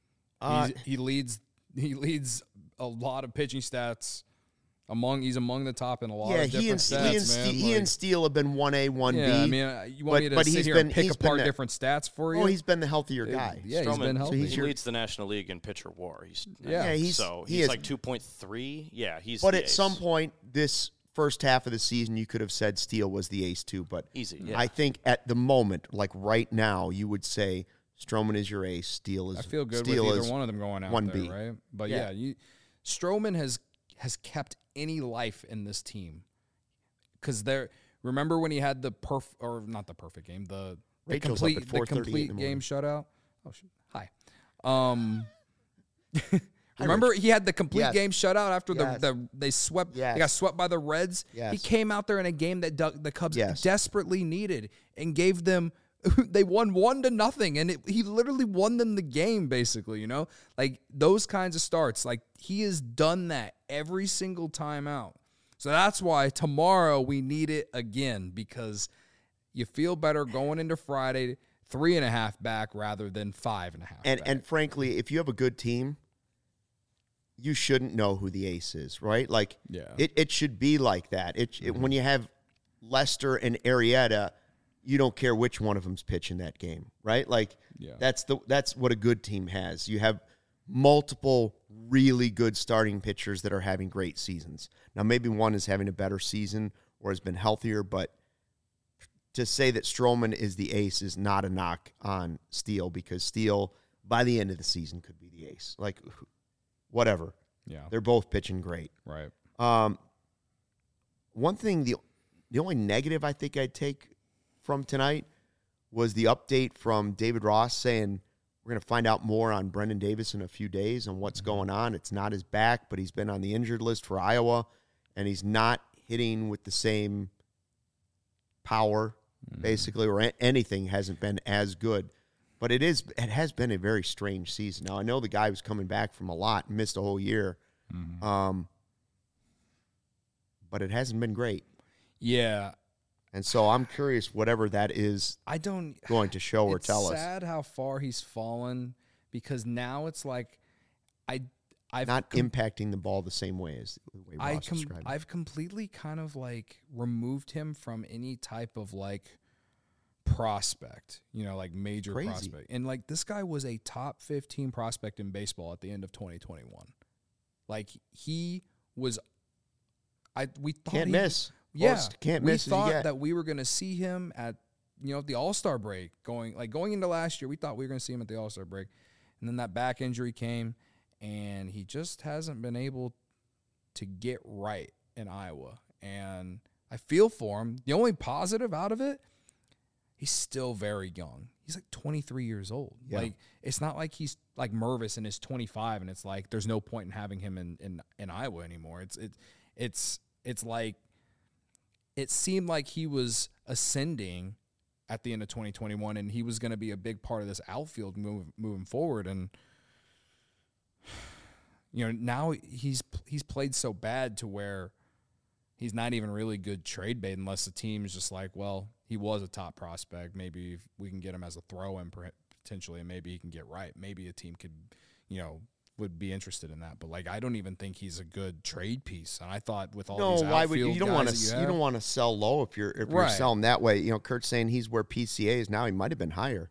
he leads a lot of pitching stats. He's among the top in a lot of different stats, man. He and Steele have been 1A, 1B. Yeah, I mean, you want me to sit here and pick apart different stats for you? Oh, he's been the healthier guy. Yeah, he's been healthy. He leads the National League in pitcher WAR. He's like 2.3. Yeah, he's. But the at ace. some point, this first half of the season, you could have said Steele was the ace too. But easy. Yeah. I think at the moment, like right now, you would say Stroman is your ace. Steele is. I feel good Steele with either one of them going out 1B. there, right? But Stroman has kept any life in this team because remember when he had the not the perfect game, the complete game shutout. Oh, hi. Remember he had the complete game shutout after they got swept by the Reds. Yes. He came out there in a game that the Cubs desperately needed and gave them. They won 1-0, and he literally won them the game, basically, Like, those kinds of starts. Like, he has done that every single time out. So that's why tomorrow we need it again, because you feel better going into Friday 3.5 back rather than 5.5 back. And frankly, if you have a good team, you shouldn't know who the ace is, right? Like, it should be like that. When you have Lester and Arrieta, you don't care which one of them's pitching that game, right? Like that's what a good team has. You have multiple really good starting pitchers that are having great seasons. Now maybe one is having a better season or has been healthier, but to say that Stroman is the ace is not a knock on Steele, because Steele by the end of the season could be the ace. Like whatever. Yeah. They're both pitching great. Right. One thing, the only negative I think I'd take from tonight was the update from David Ross saying We're going to find out more on Brendan Davis in a few days on what's going on. It's not his back, but he's been on the injured list for Iowa, and he's not hitting with the same power, basically, or anything hasn't been as good. But it has been a very strange season. Now, I know the guy was coming back from a lot and missed a whole year, but it hasn't been great. Yeah. And so I'm curious whatever that is going to show or tell us. It's sad how far he's fallen because now it's like I've not impacting the ball the same way as the way Ross described it. I've completely kind of like removed him from any type of like prospect, like major prospect. And like this guy was a top 15 prospect in baseball at the end of 2021. Like he was we thought can't miss. Yeah, can't we miss. We thought that we were going to see him at the All-Star break going into last year. We thought we were going to see him at the All-Star break, and then that back injury came, and he just hasn't been able to get right in Iowa. And I feel for him. The only positive out of it, he's still very young. He's like 23 years old. Yeah. Like it's not like he's like Mervis and is 25, and it's like there's no point in having him in Iowa anymore. It's like. It seemed like he was ascending at the end of 2021, and he was going to be a big part of this outfield moving forward. And now he's played so bad to where he's not even really good trade bait unless the team's just like, well, he was a top prospect. Maybe we can get him as a throw-in potentially, and maybe he can get right. Maybe a team could, would be interested in that, but like I don't even think he's a good trade piece. And I thought with all these outfield you don't want to sell low if you're selling that way. Kurt's saying he's where PCA is now. He might have been higher.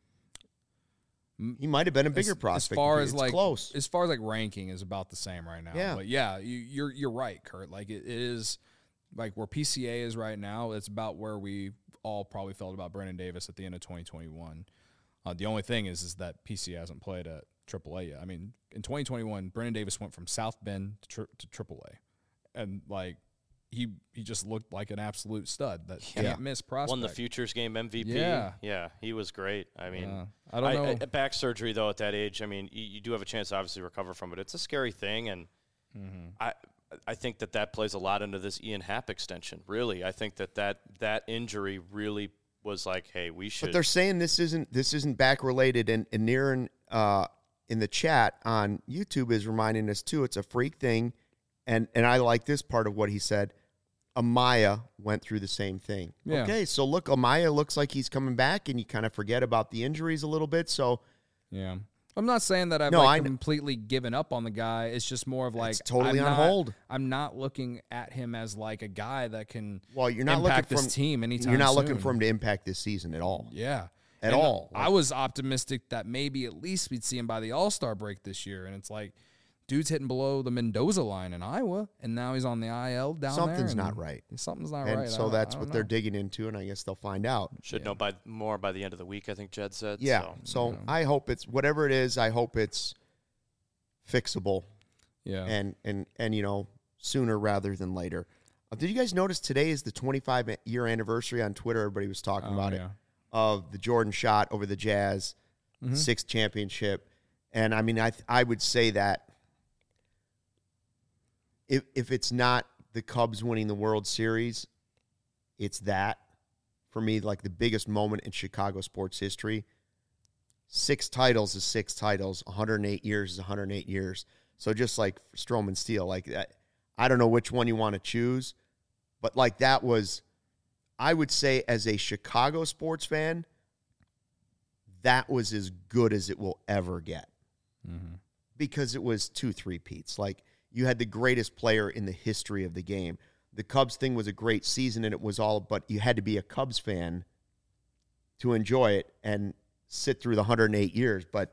He might have been a bigger prospect. As far as close. As far as like ranking is about the same right now. Yeah. But yeah, you're right, Kurt. Like it is like where PCA is right now. It's about where we all probably felt about Brendan Davis at the end of 2021. The only thing is that PCA hasn't played at AAA yet. I mean, in 2021, Brendan Davis went from South Bend to AAA, and like he just looked like an absolute stud that can't miss prospect. Won the Futures Game MVP. Yeah, he was great. I mean, I don't know. Back surgery though at that age. I mean, you do have a chance to obviously recover from it. It's a scary thing, and I think that plays a lot into this Ian Happ extension. Really, I think that injury really was like, hey, we should. But they're saying this isn't back related, and Niren in the chat on YouTube is reminding us too. It's a freak thing, and I like this part of what he said. Amaya went through the same thing. Yeah. Okay, so look, Amaya looks like he's coming back, and you kind of forget about the injuries a little bit. So yeah. I'm not saying that I've completely given up on the guy. It's just more of like it's totally on hold. I'm not looking at him as like a guy that can you're not impact looking this team anytime You're not soon. looking for him to impact this season at all. Yeah. At all. I was optimistic that maybe at least we'd see him by the All-Star break this year. And it's like, dude's hitting below the Mendoza line in Iowa, and now he's on the IL down Something's there. not right. Something's not and right. So that's what they're digging into, and I guess they'll find out. Should know more by the end of the week, I think Jed said. Yeah. So I hope it's whatever it is. I hope it's fixable. Yeah. And sooner rather than later. Did you guys notice today is the 25-year anniversary on Twitter? Everybody was talking about it. Of the Jordan shot over the Jazz, 6th championship. And, I mean, I would say that if it's not the Cubs winning the World Series, it's that. For me, like the biggest moment in Chicago sports history. 6 titles is 6 titles. 108 years is 108 years. So just like Stroman Steele, like that, I don't know which one you want to choose, but like that was, I would say as a Chicago sports fan, that was as good as it will ever get. Because it was 2 3-peats. Like you had the greatest player in the history of the game. The Cubs thing was a great season, and it was all, but you had to be a Cubs fan to enjoy it and sit through the 108 years. But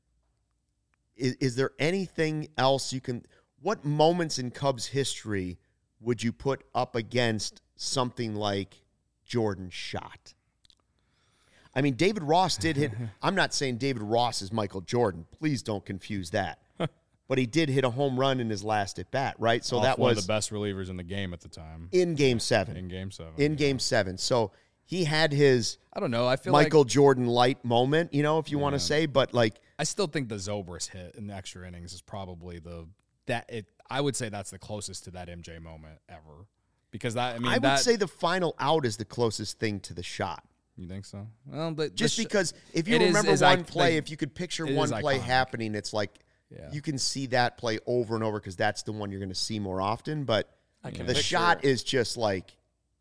is there anything else what moments in Cubs history would you put up against something like Jordan's shot? I mean, David Ross did hit. I'm not saying David Ross is Michael Jordan. Please don't confuse that. But he did hit a home run in his last at bat, right? So that was one of the best relievers in the game at the time. In Game 7. In Game 7. In Game 7. So he had his I don't know. I feel Michael like Jordan light moment, if you want to say, but like I still think the Zobrist hit in the extra innings is probably I would say that's the closest to that MJ moment ever. Because I would say the final out is the closest thing to the shot. You think so? Well, but just because if you remember one play, if you could picture one play happening, it's like you can see that play over and over because that's the one you're going to see more often. But the shot is just like.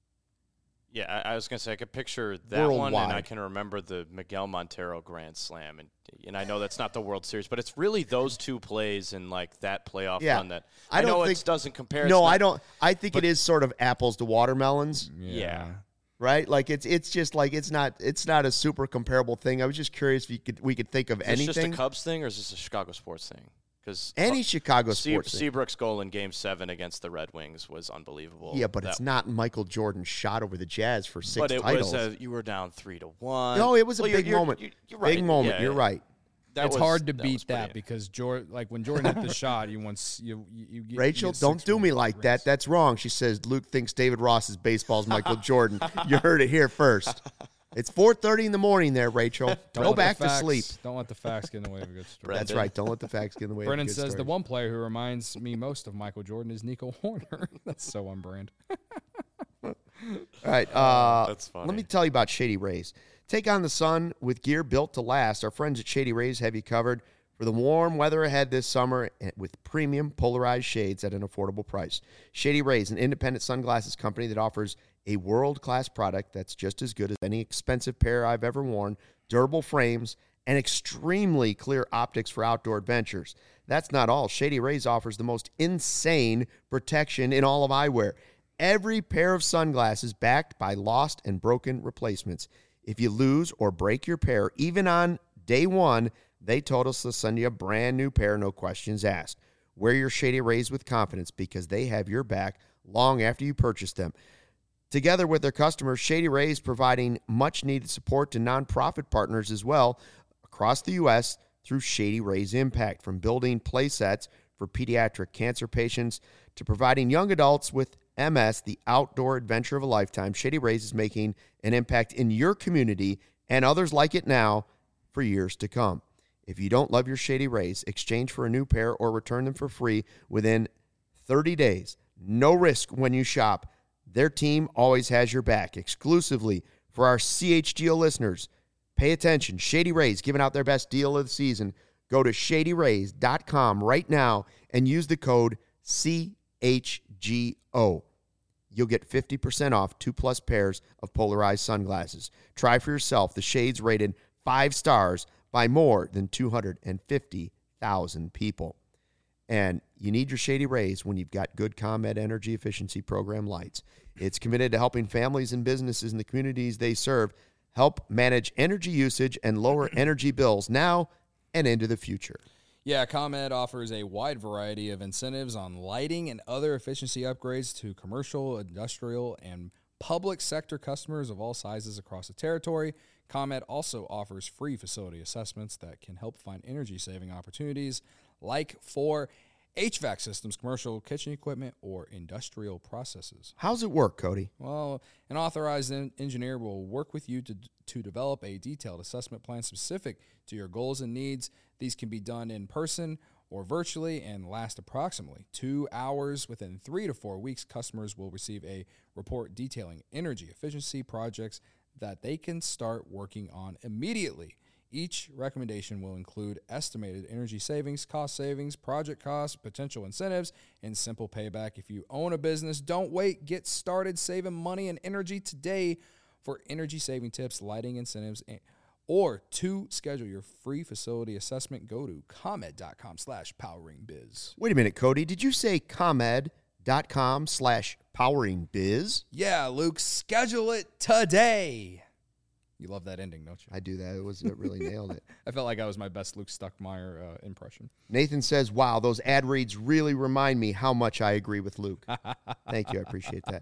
Yeah, I was going to say I could picture that one, and I can remember the Miguel Montero Grand Slam, and I know that's not the World Series, but it's really those two plays and like that playoff run that I know it doesn't compare. No, I don't. I think it is sort of apples to watermelons. Yeah. Right, like it's just like it's not a super comparable thing. I was just curious if we could think of anything. Is this just a Cubs thing or is this a Chicago sports thing? Because any Chicago sports thing. Seabrook's goal in Game 7 against the Red Wings was unbelievable. Yeah, but it's not Michael Jordan's shot over the Jazz for 6 titles. But it was you were down 3-1. No, it was a big moment. You're right. Big moment. Yeah, you're right. It's hard to beat that because when Jordan hit the shot, you Rachel, don't do me like that. That's wrong. She says Luke thinks David Ross's baseball is Michael Jordan. You heard it here first. It's 4:30 in the morning there, Rachel. Go back to sleep. Don't let the facts get in the way of a good story. That's right. Don't let the facts get in the way Brennan of a good story. says the one player who reminds me most of Michael Jordan is Nico Horner. That's so on brand. All right. That's funny. Let me tell you about Shady Rays. Take on the sun with gear built to last. Our friends at Shady Rays have you covered for the warm weather ahead this summer with premium polarized shades at an affordable price. Shady Rays, an independent sunglasses company that offers a world-class product that's just as good as any expensive pair I've ever worn, durable frames, and extremely clear optics for outdoor adventures. That's not all. Shady Rays offers the most insane protection in all of eyewear. Every pair of sunglasses backed by lost and broken replacements. If you lose or break your pair, even on day one, they told us to send you a brand new pair, no questions asked. Wear your Shady Rays with confidence because they have your back long after you purchase them. Together with their customers, Shady Rays providing much-needed support to nonprofit partners as well across the U.S. through Shady Rays Impact, from building play sets for pediatric cancer patients to providing young adults with MS the outdoor adventure of a lifetime. Shady Rays is making an impact in your community and others like it now for years to come. If you don't love your Shady Rays, exchange for a new pair or return them for free within 30 days. No risk when you shop. Their team always has your back. Exclusively for our CHGO listeners, pay attention. Shady Rays giving out their best deal of the season. Go to shadyrays.com right now and use the code CHGO. You'll get 50% off 2+ pairs of polarized sunglasses. Try for yourself the shades rated 5 stars by more than 250,000 people. And you need your Shady Rays when you've got good ComEd energy efficiency program lights. It's committed to helping families and businesses in the communities they serve help manage energy usage and lower energy bills now and into the future. Yeah, ComEd offers a wide variety of incentives on lighting and other efficiency upgrades to commercial, industrial, and public sector customers of all sizes across the territory. ComEd also offers free facility assessments that can help find energy-saving opportunities, like for HVAC systems, commercial kitchen equipment, or industrial processes. How's it work, Cody? Well, an authorized engineer will work with you to develop a detailed assessment plan specific to your goals and needs. These can be done in person or virtually and last approximately 2 hours. Within 3 to 4 weeks, customers will receive a report detailing energy efficiency projects that they can start working on immediately. Each recommendation will include estimated energy savings, cost savings, project costs, potential incentives, and simple payback. If you own a business, don't wait. Get started saving money and energy today. For energy saving tips, lighting incentives, or to schedule your free facility assessment, go to ComEd.com/poweringbiz. Wait a minute, Cody. Did you say ComEd.com/poweringbiz? Yeah, Luke, schedule it today. You love that ending, don't you? I do that. It really nailed it. I felt like that was my best Luke Stuckmeyer impression. Nathan says, wow, those ad reads really remind me how much I agree with Luke. Thank you. I appreciate that.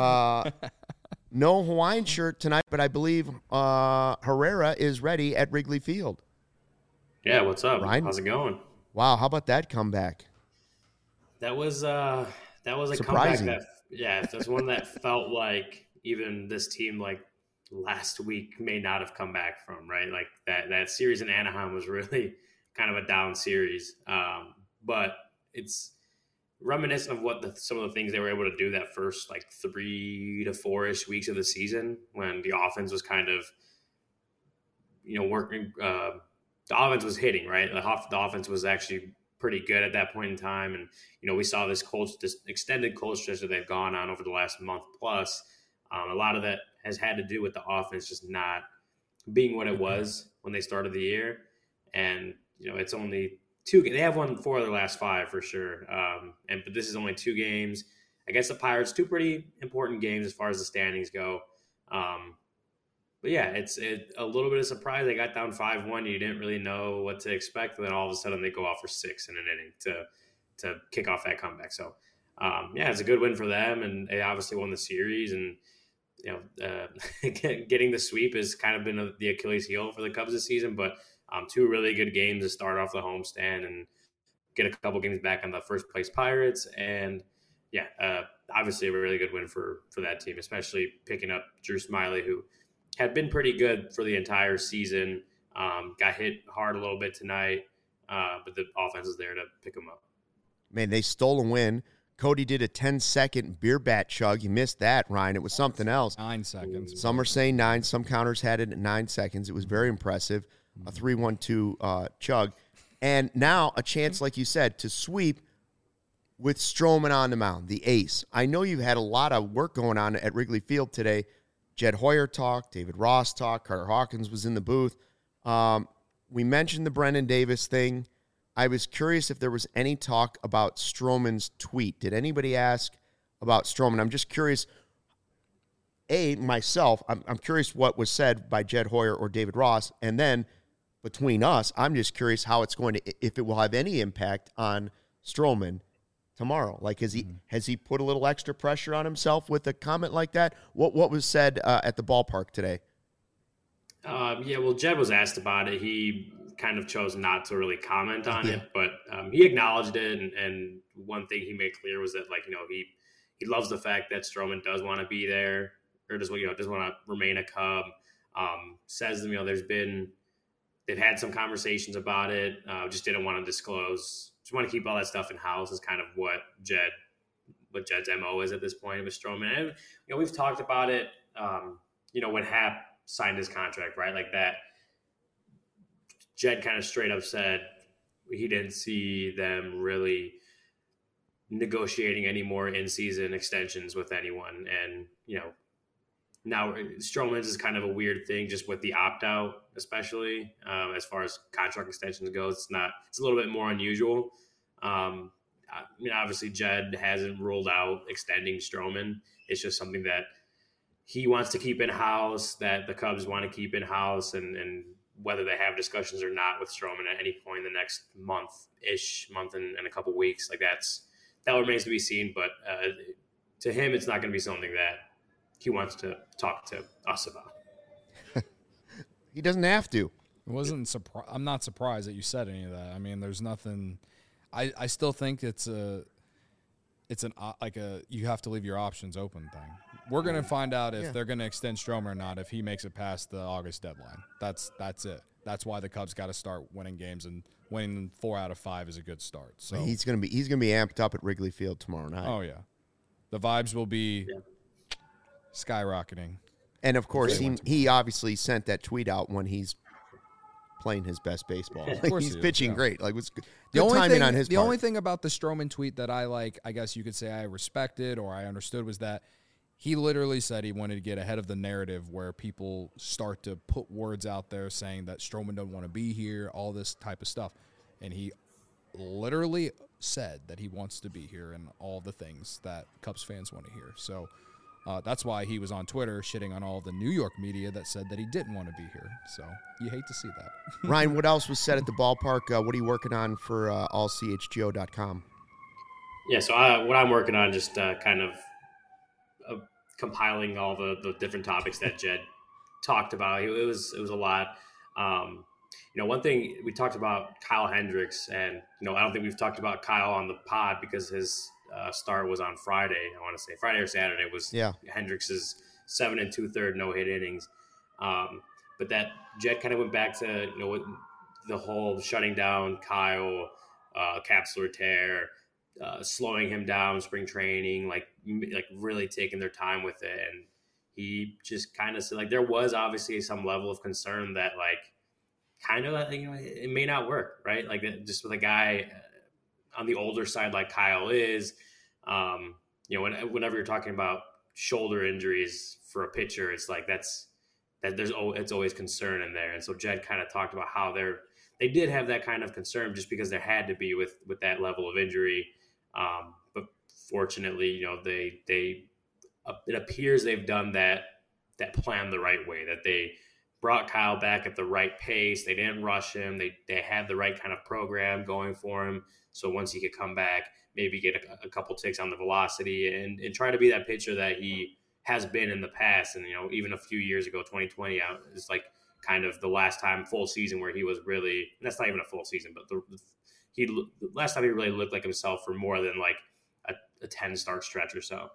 No Hawaiian shirt tonight, but I believe Herrera is ready at Wrigley Field. Yeah, what's up? Ryan? How's it going? Wow, how about that comeback? That was a surprising comeback that's one that felt like even this team last week may not have come back from, right? Like that series in Anaheim was really kind of a down series. But it's reminiscent of what some of the things they were able to do that first like 3 to 4-ish weeks of the season when the offense was kind of, working. The offense was hitting, right? The offense was actually pretty good at that point in time. And, we saw this extended cold stretch that they've gone on over the last month plus. A lot of that has had to do with the offense just not being what it was when they started the year. And, it's only 2. They have won 4 of their last 5 for sure. But this is only 2 games against the Pirates, 2 pretty important games as far as the standings go. But yeah, it's a little bit of surprise. They got down 5-1. You didn't really know what to expect. And then all of a sudden they go off for 6 in an inning to kick off that comeback. So, it's a good win for them. And they obviously won the series. And, getting the sweep has kind of been the Achilles heel for the Cubs this season. But 2 really good games to start off the homestand and get a couple games back on the first place Pirates. And, obviously a really good win for that team, especially picking up Drew Smyly, who had been pretty good for the entire season. Got hit hard a little bit tonight, but the offense is there to pick him up. Man, they stole a win. Cody did a 10-second beer bat chug. You missed that, Ryan. It was something else. 9 seconds. Some are saying 9. Some counters had it at 9 seconds. It was very impressive. A 3-1-2 chug. And now a chance, like you said, to sweep with Stroman on the mound, the ace. I know you've had a lot of work going on at Wrigley Field today. Jed Hoyer talked, David Ross talked, Carter Hawkins was in the booth. We mentioned the Brendan Davis thing. I was curious if there was any talk about Stroman's tweet. Did anybody ask about Stroman? I'm just curious. Myself, I'm curious what was said by Jed Hoyer or David Ross. And then between us, I'm just curious how it's going to, if it will have any impact on Stroman tomorrow. Like, has he put a little extra pressure on himself with a comment like that? What was said at the ballpark today? Well, Jed was asked about it. He kind of chose not to really comment on it, but he acknowledged it. And one thing he made clear was that, he loves the fact that Stroman does want to be there, or does want to remain a Cub. Says, they've had some conversations about it. Just didn't want to disclose. Just want to keep all that stuff in house. Is kind of what Jed's MO is at this point with Stroman. And we've talked about it. When Happ signed his contract, right, like that, Jed kind of straight up said he didn't see them really negotiating any more in-season extensions with anyone. And now Stroman's is kind of a weird thing, just with the opt-out, especially as far as contract extensions goes. It's a little bit more unusual. Obviously Jed hasn't ruled out extending Stroman. It's just something that he wants to keep in-house, that the Cubs want to keep in-house, and whether they have discussions or not with Stroman at any point in the next month and a couple weeks, that remains to be seen. But to him, it's not going to be something that he wants to talk to us about. He doesn't have to. I'm not surprised that you said any of that. I mean, there's nothing. I still think you have to leave your options open thing. We're going to find out if they're going to extend Stroman or not if he makes it past the August deadline. That's it. That's why the Cubs got to start winning games, and winning 4 out of 5 is a good start. So he's going to be amped up at Wrigley Field tomorrow night. Oh yeah, the vibes will be skyrocketing. And of course, he obviously sent that tweet out when he's playing his best baseball. He's pitching great. It's good timing on his part. The only thing about the Stroman tweet that I guess you could say I respected or I understood, was that he literally said he wanted to get ahead of the narrative where people start to put words out there saying that Stroman doesn't want to be here, all this type of stuff. And he literally said that he wants to be here and all the things that Cubs fans want to hear. So that's why he was on Twitter shitting on all the New York media that said that he didn't want to be here. So you hate to see that. Ryan, what else was said at the ballpark? What are you working on for allchgo.com? Yeah, so what I'm working on, just kind of compiling all the different topics that Jed talked about. It was a lot. One thing we talked about, Kyle Hendricks, and I don't think we've talked about Kyle on the pod because his start was on Friday. I want to say Friday or Saturday was Hendricks' 7 2/3 no-hit innings. But that Jed kind of went back to, the whole shutting down Kyle, capsular tear, slowing him down, spring training, like really taking their time with it. And he just kind of said, like, there was obviously some level of concern that, like, kind of, it may not work, right? Like, just with a guy on the older side like Kyle is, whenever you're talking about shoulder injuries for a pitcher, it's like it's always concern in there. And so Jed kind of talked about how they did have that kind of concern just because there had to be with that level of injury. But fortunately, it appears they've done that plan the right way, that they brought Kyle back at the right pace. They didn't rush him. They had the right kind of program going for him. So once he could come back, maybe get a couple ticks on the velocity and try to be that pitcher that he has been in the past. And, even a few years ago, 2020, it's like kind of the last time full season where he was really, that's not even a full season, but the last time he really looked like himself for more than like a 10 start stretch or so.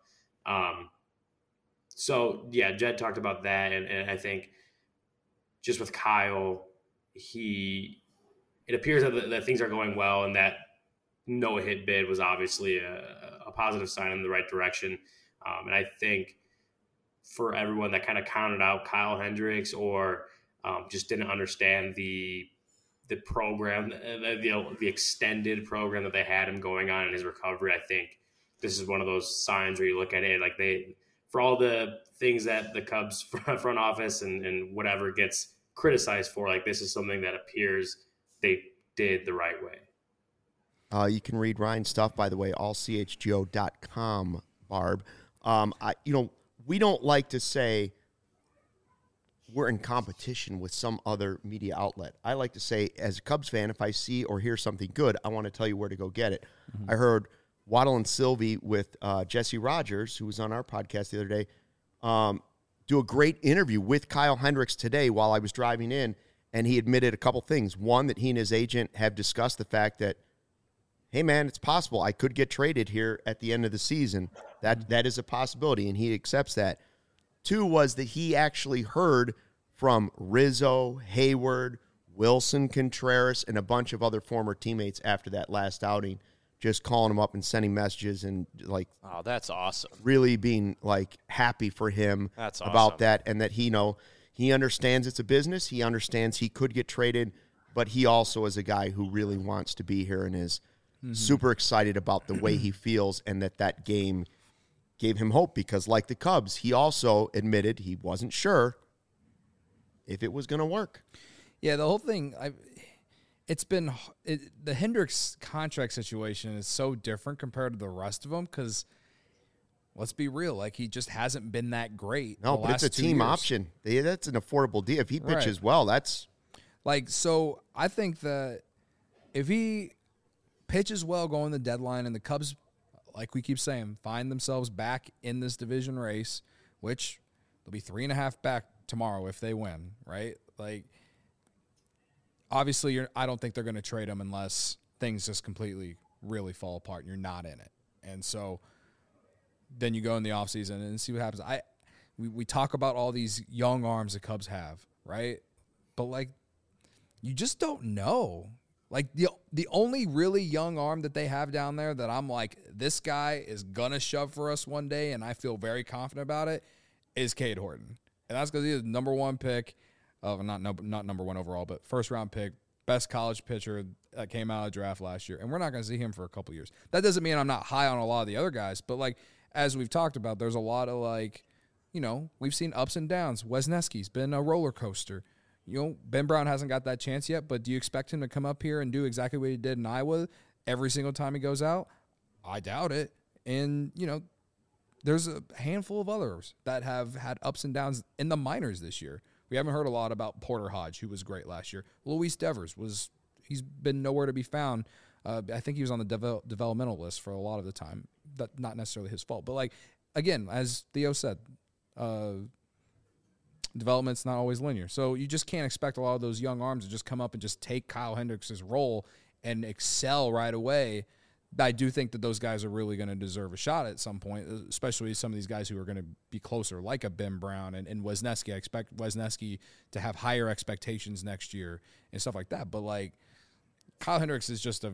So yeah, Jed talked about that. And I think just with Kyle, it appears that things are going well, and that no hit bid was obviously a positive sign in the right direction. And I think for everyone that kind of counted out Kyle Hendricks or just didn't understand the program, the extended program that they had him going on in his recovery, I think this is one of those signs where you look at it like for all the things that the Cubs front office and whatever gets criticized for, like, this is something that appears they did the right way. You can read Ryan's stuff, by the way, allchgo.com, Barb. We don't like to say we're in competition with some other media outlet. I like to say, as a Cubs fan, if I see or hear something good, I want to tell you where to go get it. Mm-hmm. I heard Waddle and Sylvie with Jesse Rogers, who was on our podcast the other day, do a great interview with Kyle Hendricks today while I was driving in, and he admitted a couple things. One, that he and his agent have discussed the fact that, hey, man, it's possible I could get traded here at the end of the season. That is a possibility, and he accepts that. Two was that he actually heard from Rizzo, Hayward, Wilson Contreras, and a bunch of other former teammates after that last outing, just calling him up and sending messages and, like, oh, that's awesome. Really being, like, happy for him about awesome. That, and that he understands it's a business. He understands he could get traded, but he also is a guy who really wants to be here and is super excited about the way he feels, and that game gave him hope because, like the Cubs, he also admitted he wasn't sure if it was going to work. Yeah, the whole thing, the Hendricks contract situation is so different compared to the rest of them because, let's be real, like, he just hasn't been that great. No, but it's a team option. That's an affordable deal. If he pitches well, that's... Like, so I think that if he pitches well going the deadline and the Cubs, like we keep saying, find themselves back in this division race, which they'll be 3.5 back tomorrow if they win, right? Like, obviously, I don't think they're going to trade him unless things just completely really fall apart and you're not in it. And so then you go in the offseason and see what happens. We talk about all these young arms the Cubs have, right? But, like, you just don't know. Like, the only really young arm that they have down there that I'm like, this guy is going to shove for us one day, and I feel very confident about it, is Cade Horton. And that's because he's the number one pick, not number one overall, but first-round pick, best college pitcher that came out of the draft last year. And we're not going to see him for a couple years. That doesn't mean I'm not high on a lot of the other guys, but, like, as we've talked about, there's a lot of, like, we've seen ups and downs. Wesneski's been a roller coaster. Ben Brown hasn't got that chance yet, but do you expect him to come up here and do exactly what he did in Iowa every single time he goes out? I doubt it. And, there's a handful of others that have had ups and downs in the minors this year. We haven't heard a lot about Porter Hodge, who was great last year. Luis Devers he's been nowhere to be found. I think he was on the developmental list for a lot of the time. That's not necessarily his fault. But, like, again, as Theo said, development's not always linear. So you just can't expect a lot of those young arms to just come up and just take Kyle Hendricks' role and excel right away. I do think that those guys are really going to deserve a shot at some point, especially some of these guys who are going to be closer, like a Ben Brown and Wisniewski. I expect Wisniewski to have higher expectations next year and stuff like that. But, like, Kyle Hendricks is just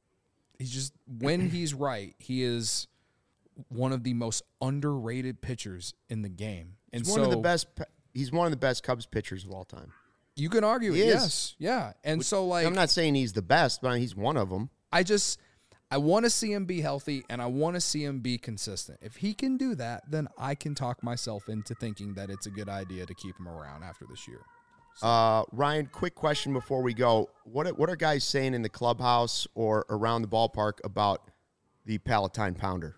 when he's right, he is one of the most underrated pitchers in the game. And he's one of the best Cubs pitchers of all time. You can argue he it, is. yes. Yeah. And so, like, I'm not saying he's the best, but he's one of them. I want to see him be healthy, and I want to see him be consistent. If he can do that, then I can talk myself into thinking that it's a good idea to keep him around after this year. Ryan, quick question before we go. What are guys saying in the clubhouse or around the ballpark about the Palatine Pounder?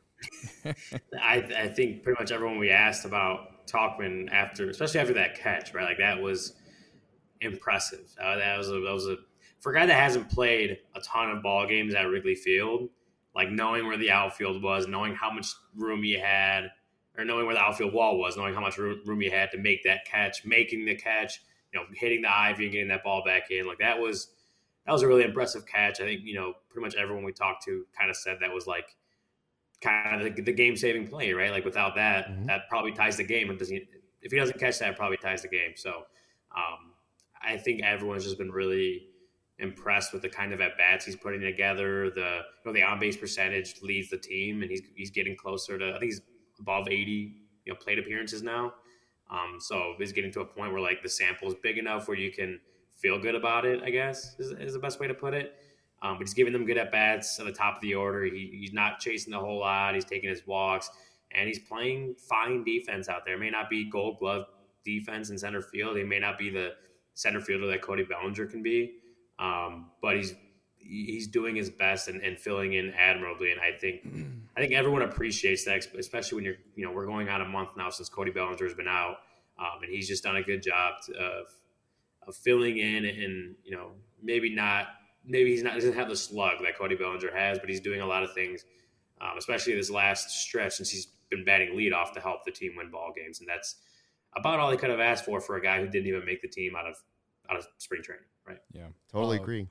I think pretty much everyone we asked about Tauchman especially after that catch, right? Like, that was impressive. That was a for a guy that hasn't played a ton of ball games at Wrigley Field, like, knowing where the outfield was, knowing how much room you had, or knowing where the outfield wall was, knowing how much room you had to make that catch, making the catch, hitting the ivy and getting that ball back in. Like, that was a really impressive catch. I think, pretty much everyone we talked to kind of said that was, like, kind of the game-saving play, right? Like, without that, that probably ties the game. If he doesn't catch that, it probably ties the game. So I think everyone's just been really impressed with the kind of at-bats he's putting together. The on-base percentage leads the team, and he's getting closer to, I think he's above 80 plate appearances now. So he's getting to a point where, like, the sample is big enough where you can feel good about it, I guess, is the best way to put it. But he's giving them good at-bats at the top of the order. He's not chasing the whole lot. He's taking his walks, and he's playing fine defense out there. It may not be Gold Glove defense in center field. He may not be the center fielder that Cody Bellinger can be. But he's doing his best and filling in admirably. And I think everyone appreciates that, especially when we're going on a month now since Cody Bellinger has been out. And he's just done a good job of filling in and, maybe he doesn't have the slug that Cody Bellinger has, but he's doing a lot of things, especially this last stretch since he's been batting leadoff to help the team win ball games. And that's about all he could have asked for a guy who didn't even make the team out of spring training. Right. Yeah. Totally agree.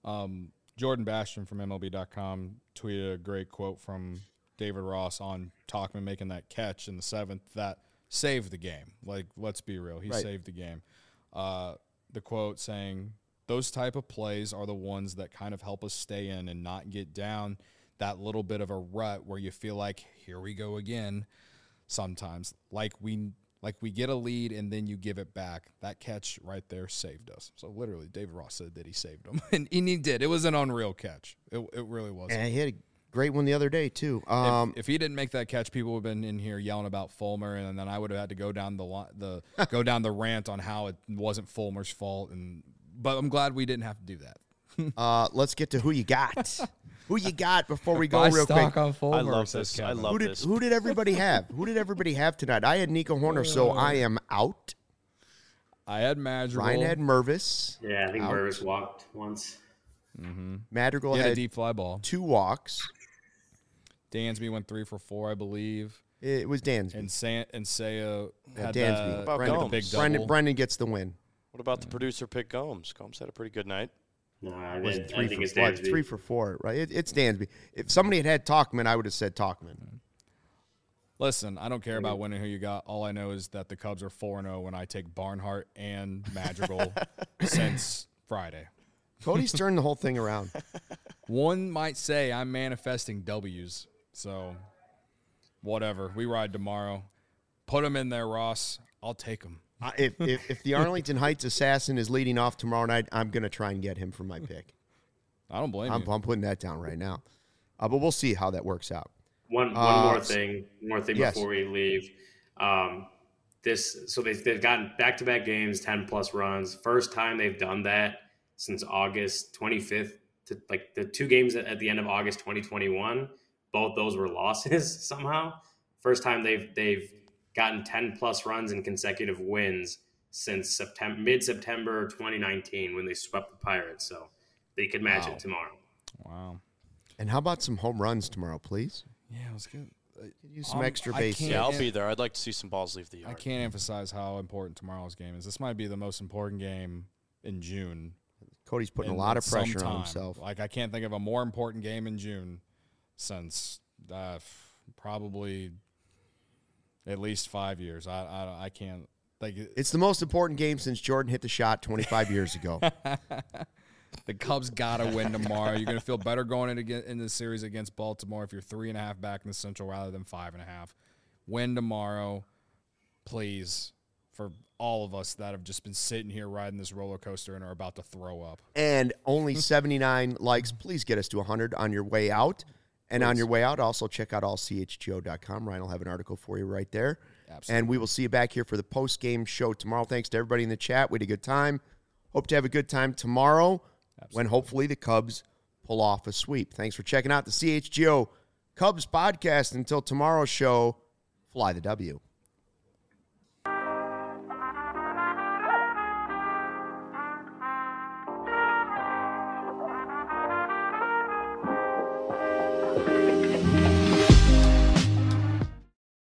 Jordan Bastian from MLB.com tweeted a great quote from David Ross on Tauchman making that catch in the 7th that saved the game. Like, let's be real. He saved the game. The quote saying, "Those type of plays are the ones that kind of help us stay in and not get down that little bit of a rut where you feel like, here we go again sometimes. Like we get a lead and then you give it back. That catch right there saved us." So literally, David Ross said that he saved him, and he did. It was an unreal catch. It really was. And he had a great one the other day too. If he didn't make that catch, people would have been in here yelling about Fulmer, and then I would have had to go down the rant on how it wasn't Fulmer's fault. But I'm glad we didn't have to do that. Let's get to who you got. Who you got before we go real quick? On Fulmer, I love this. I love this. Who did everybody have? Who did everybody have tonight? I had Nico Horner, so I am out. I had Madrigal. Ryan had Mervis. Yeah, I think out. Mervis walked once. Madrigal had had a deep fly ball. 2 walks. Dansby went 3 for 4, I believe. It was Dansby. And Saya had Dansby. that About Brendan, Gomes. big double. Brendan gets the win. What about the producer pick Gomes? Gomes had a pretty good night. No, I Was think it's 3 Dansby. 3 for 4, right? It's Dansby. If somebody had Tauchman, I would have said Tauchman. Listen, I don't care about winning who you got. All I know is that the Cubs are 4-0 when I take Barnhart and Madrigal since Friday. Cody's turned the whole thing around. One might say I'm manifesting W's. So, whatever. We ride tomorrow. Put them in there, Ross. I'll take them. If the Arlington Heights assassin is leading off tomorrow night, I'm going to try and get him for my pick. I don't blame you. I'm putting that down right now. But we'll see how that works out. One more thing yes. before we leave. They've gotten back-to-back games, 10-plus runs. First time they've done that since August 25th. Like the 2 games at the end of August 2021, both those were losses somehow. First time they've gotten 10-plus runs in consecutive wins since mid-September 2019 when they swept the Pirates. So they could match it tomorrow. Wow. And how about some home runs tomorrow, please? Yeah, it was good. Use some extra base. can't- Yeah, I'll be there. I'd like to see some balls leave the yard. I can't emphasize how important tomorrow's game is. This might be the most important game in June. Cody's putting a in lot of pressure some on time. himself. Like, I can't think of a more important game in June since probably at least 5 years. I can't. Like, it's the most important game since Jordan hit the shot 25 years ago. The Cubs got to win tomorrow. You're going to feel better going in the series against Baltimore if you're 3.5 back in the Central rather than 5.5. Win tomorrow, please, for all of us that have just been sitting here riding this roller coaster and are about to throw up. And only 79 likes. Please get us to 100 on your way out. And on your way out, also check out allchgo.com. Ryan will have an article for you right there. Absolutely. And we will see you back here for the post-game show tomorrow. Thanks to everybody in the chat. We had a good time. Hope to have a good time tomorrow. Absolutely. When hopefully the Cubs pull off a sweep. Thanks for checking out the CHGO Cubs podcast. Until tomorrow's show, fly the W.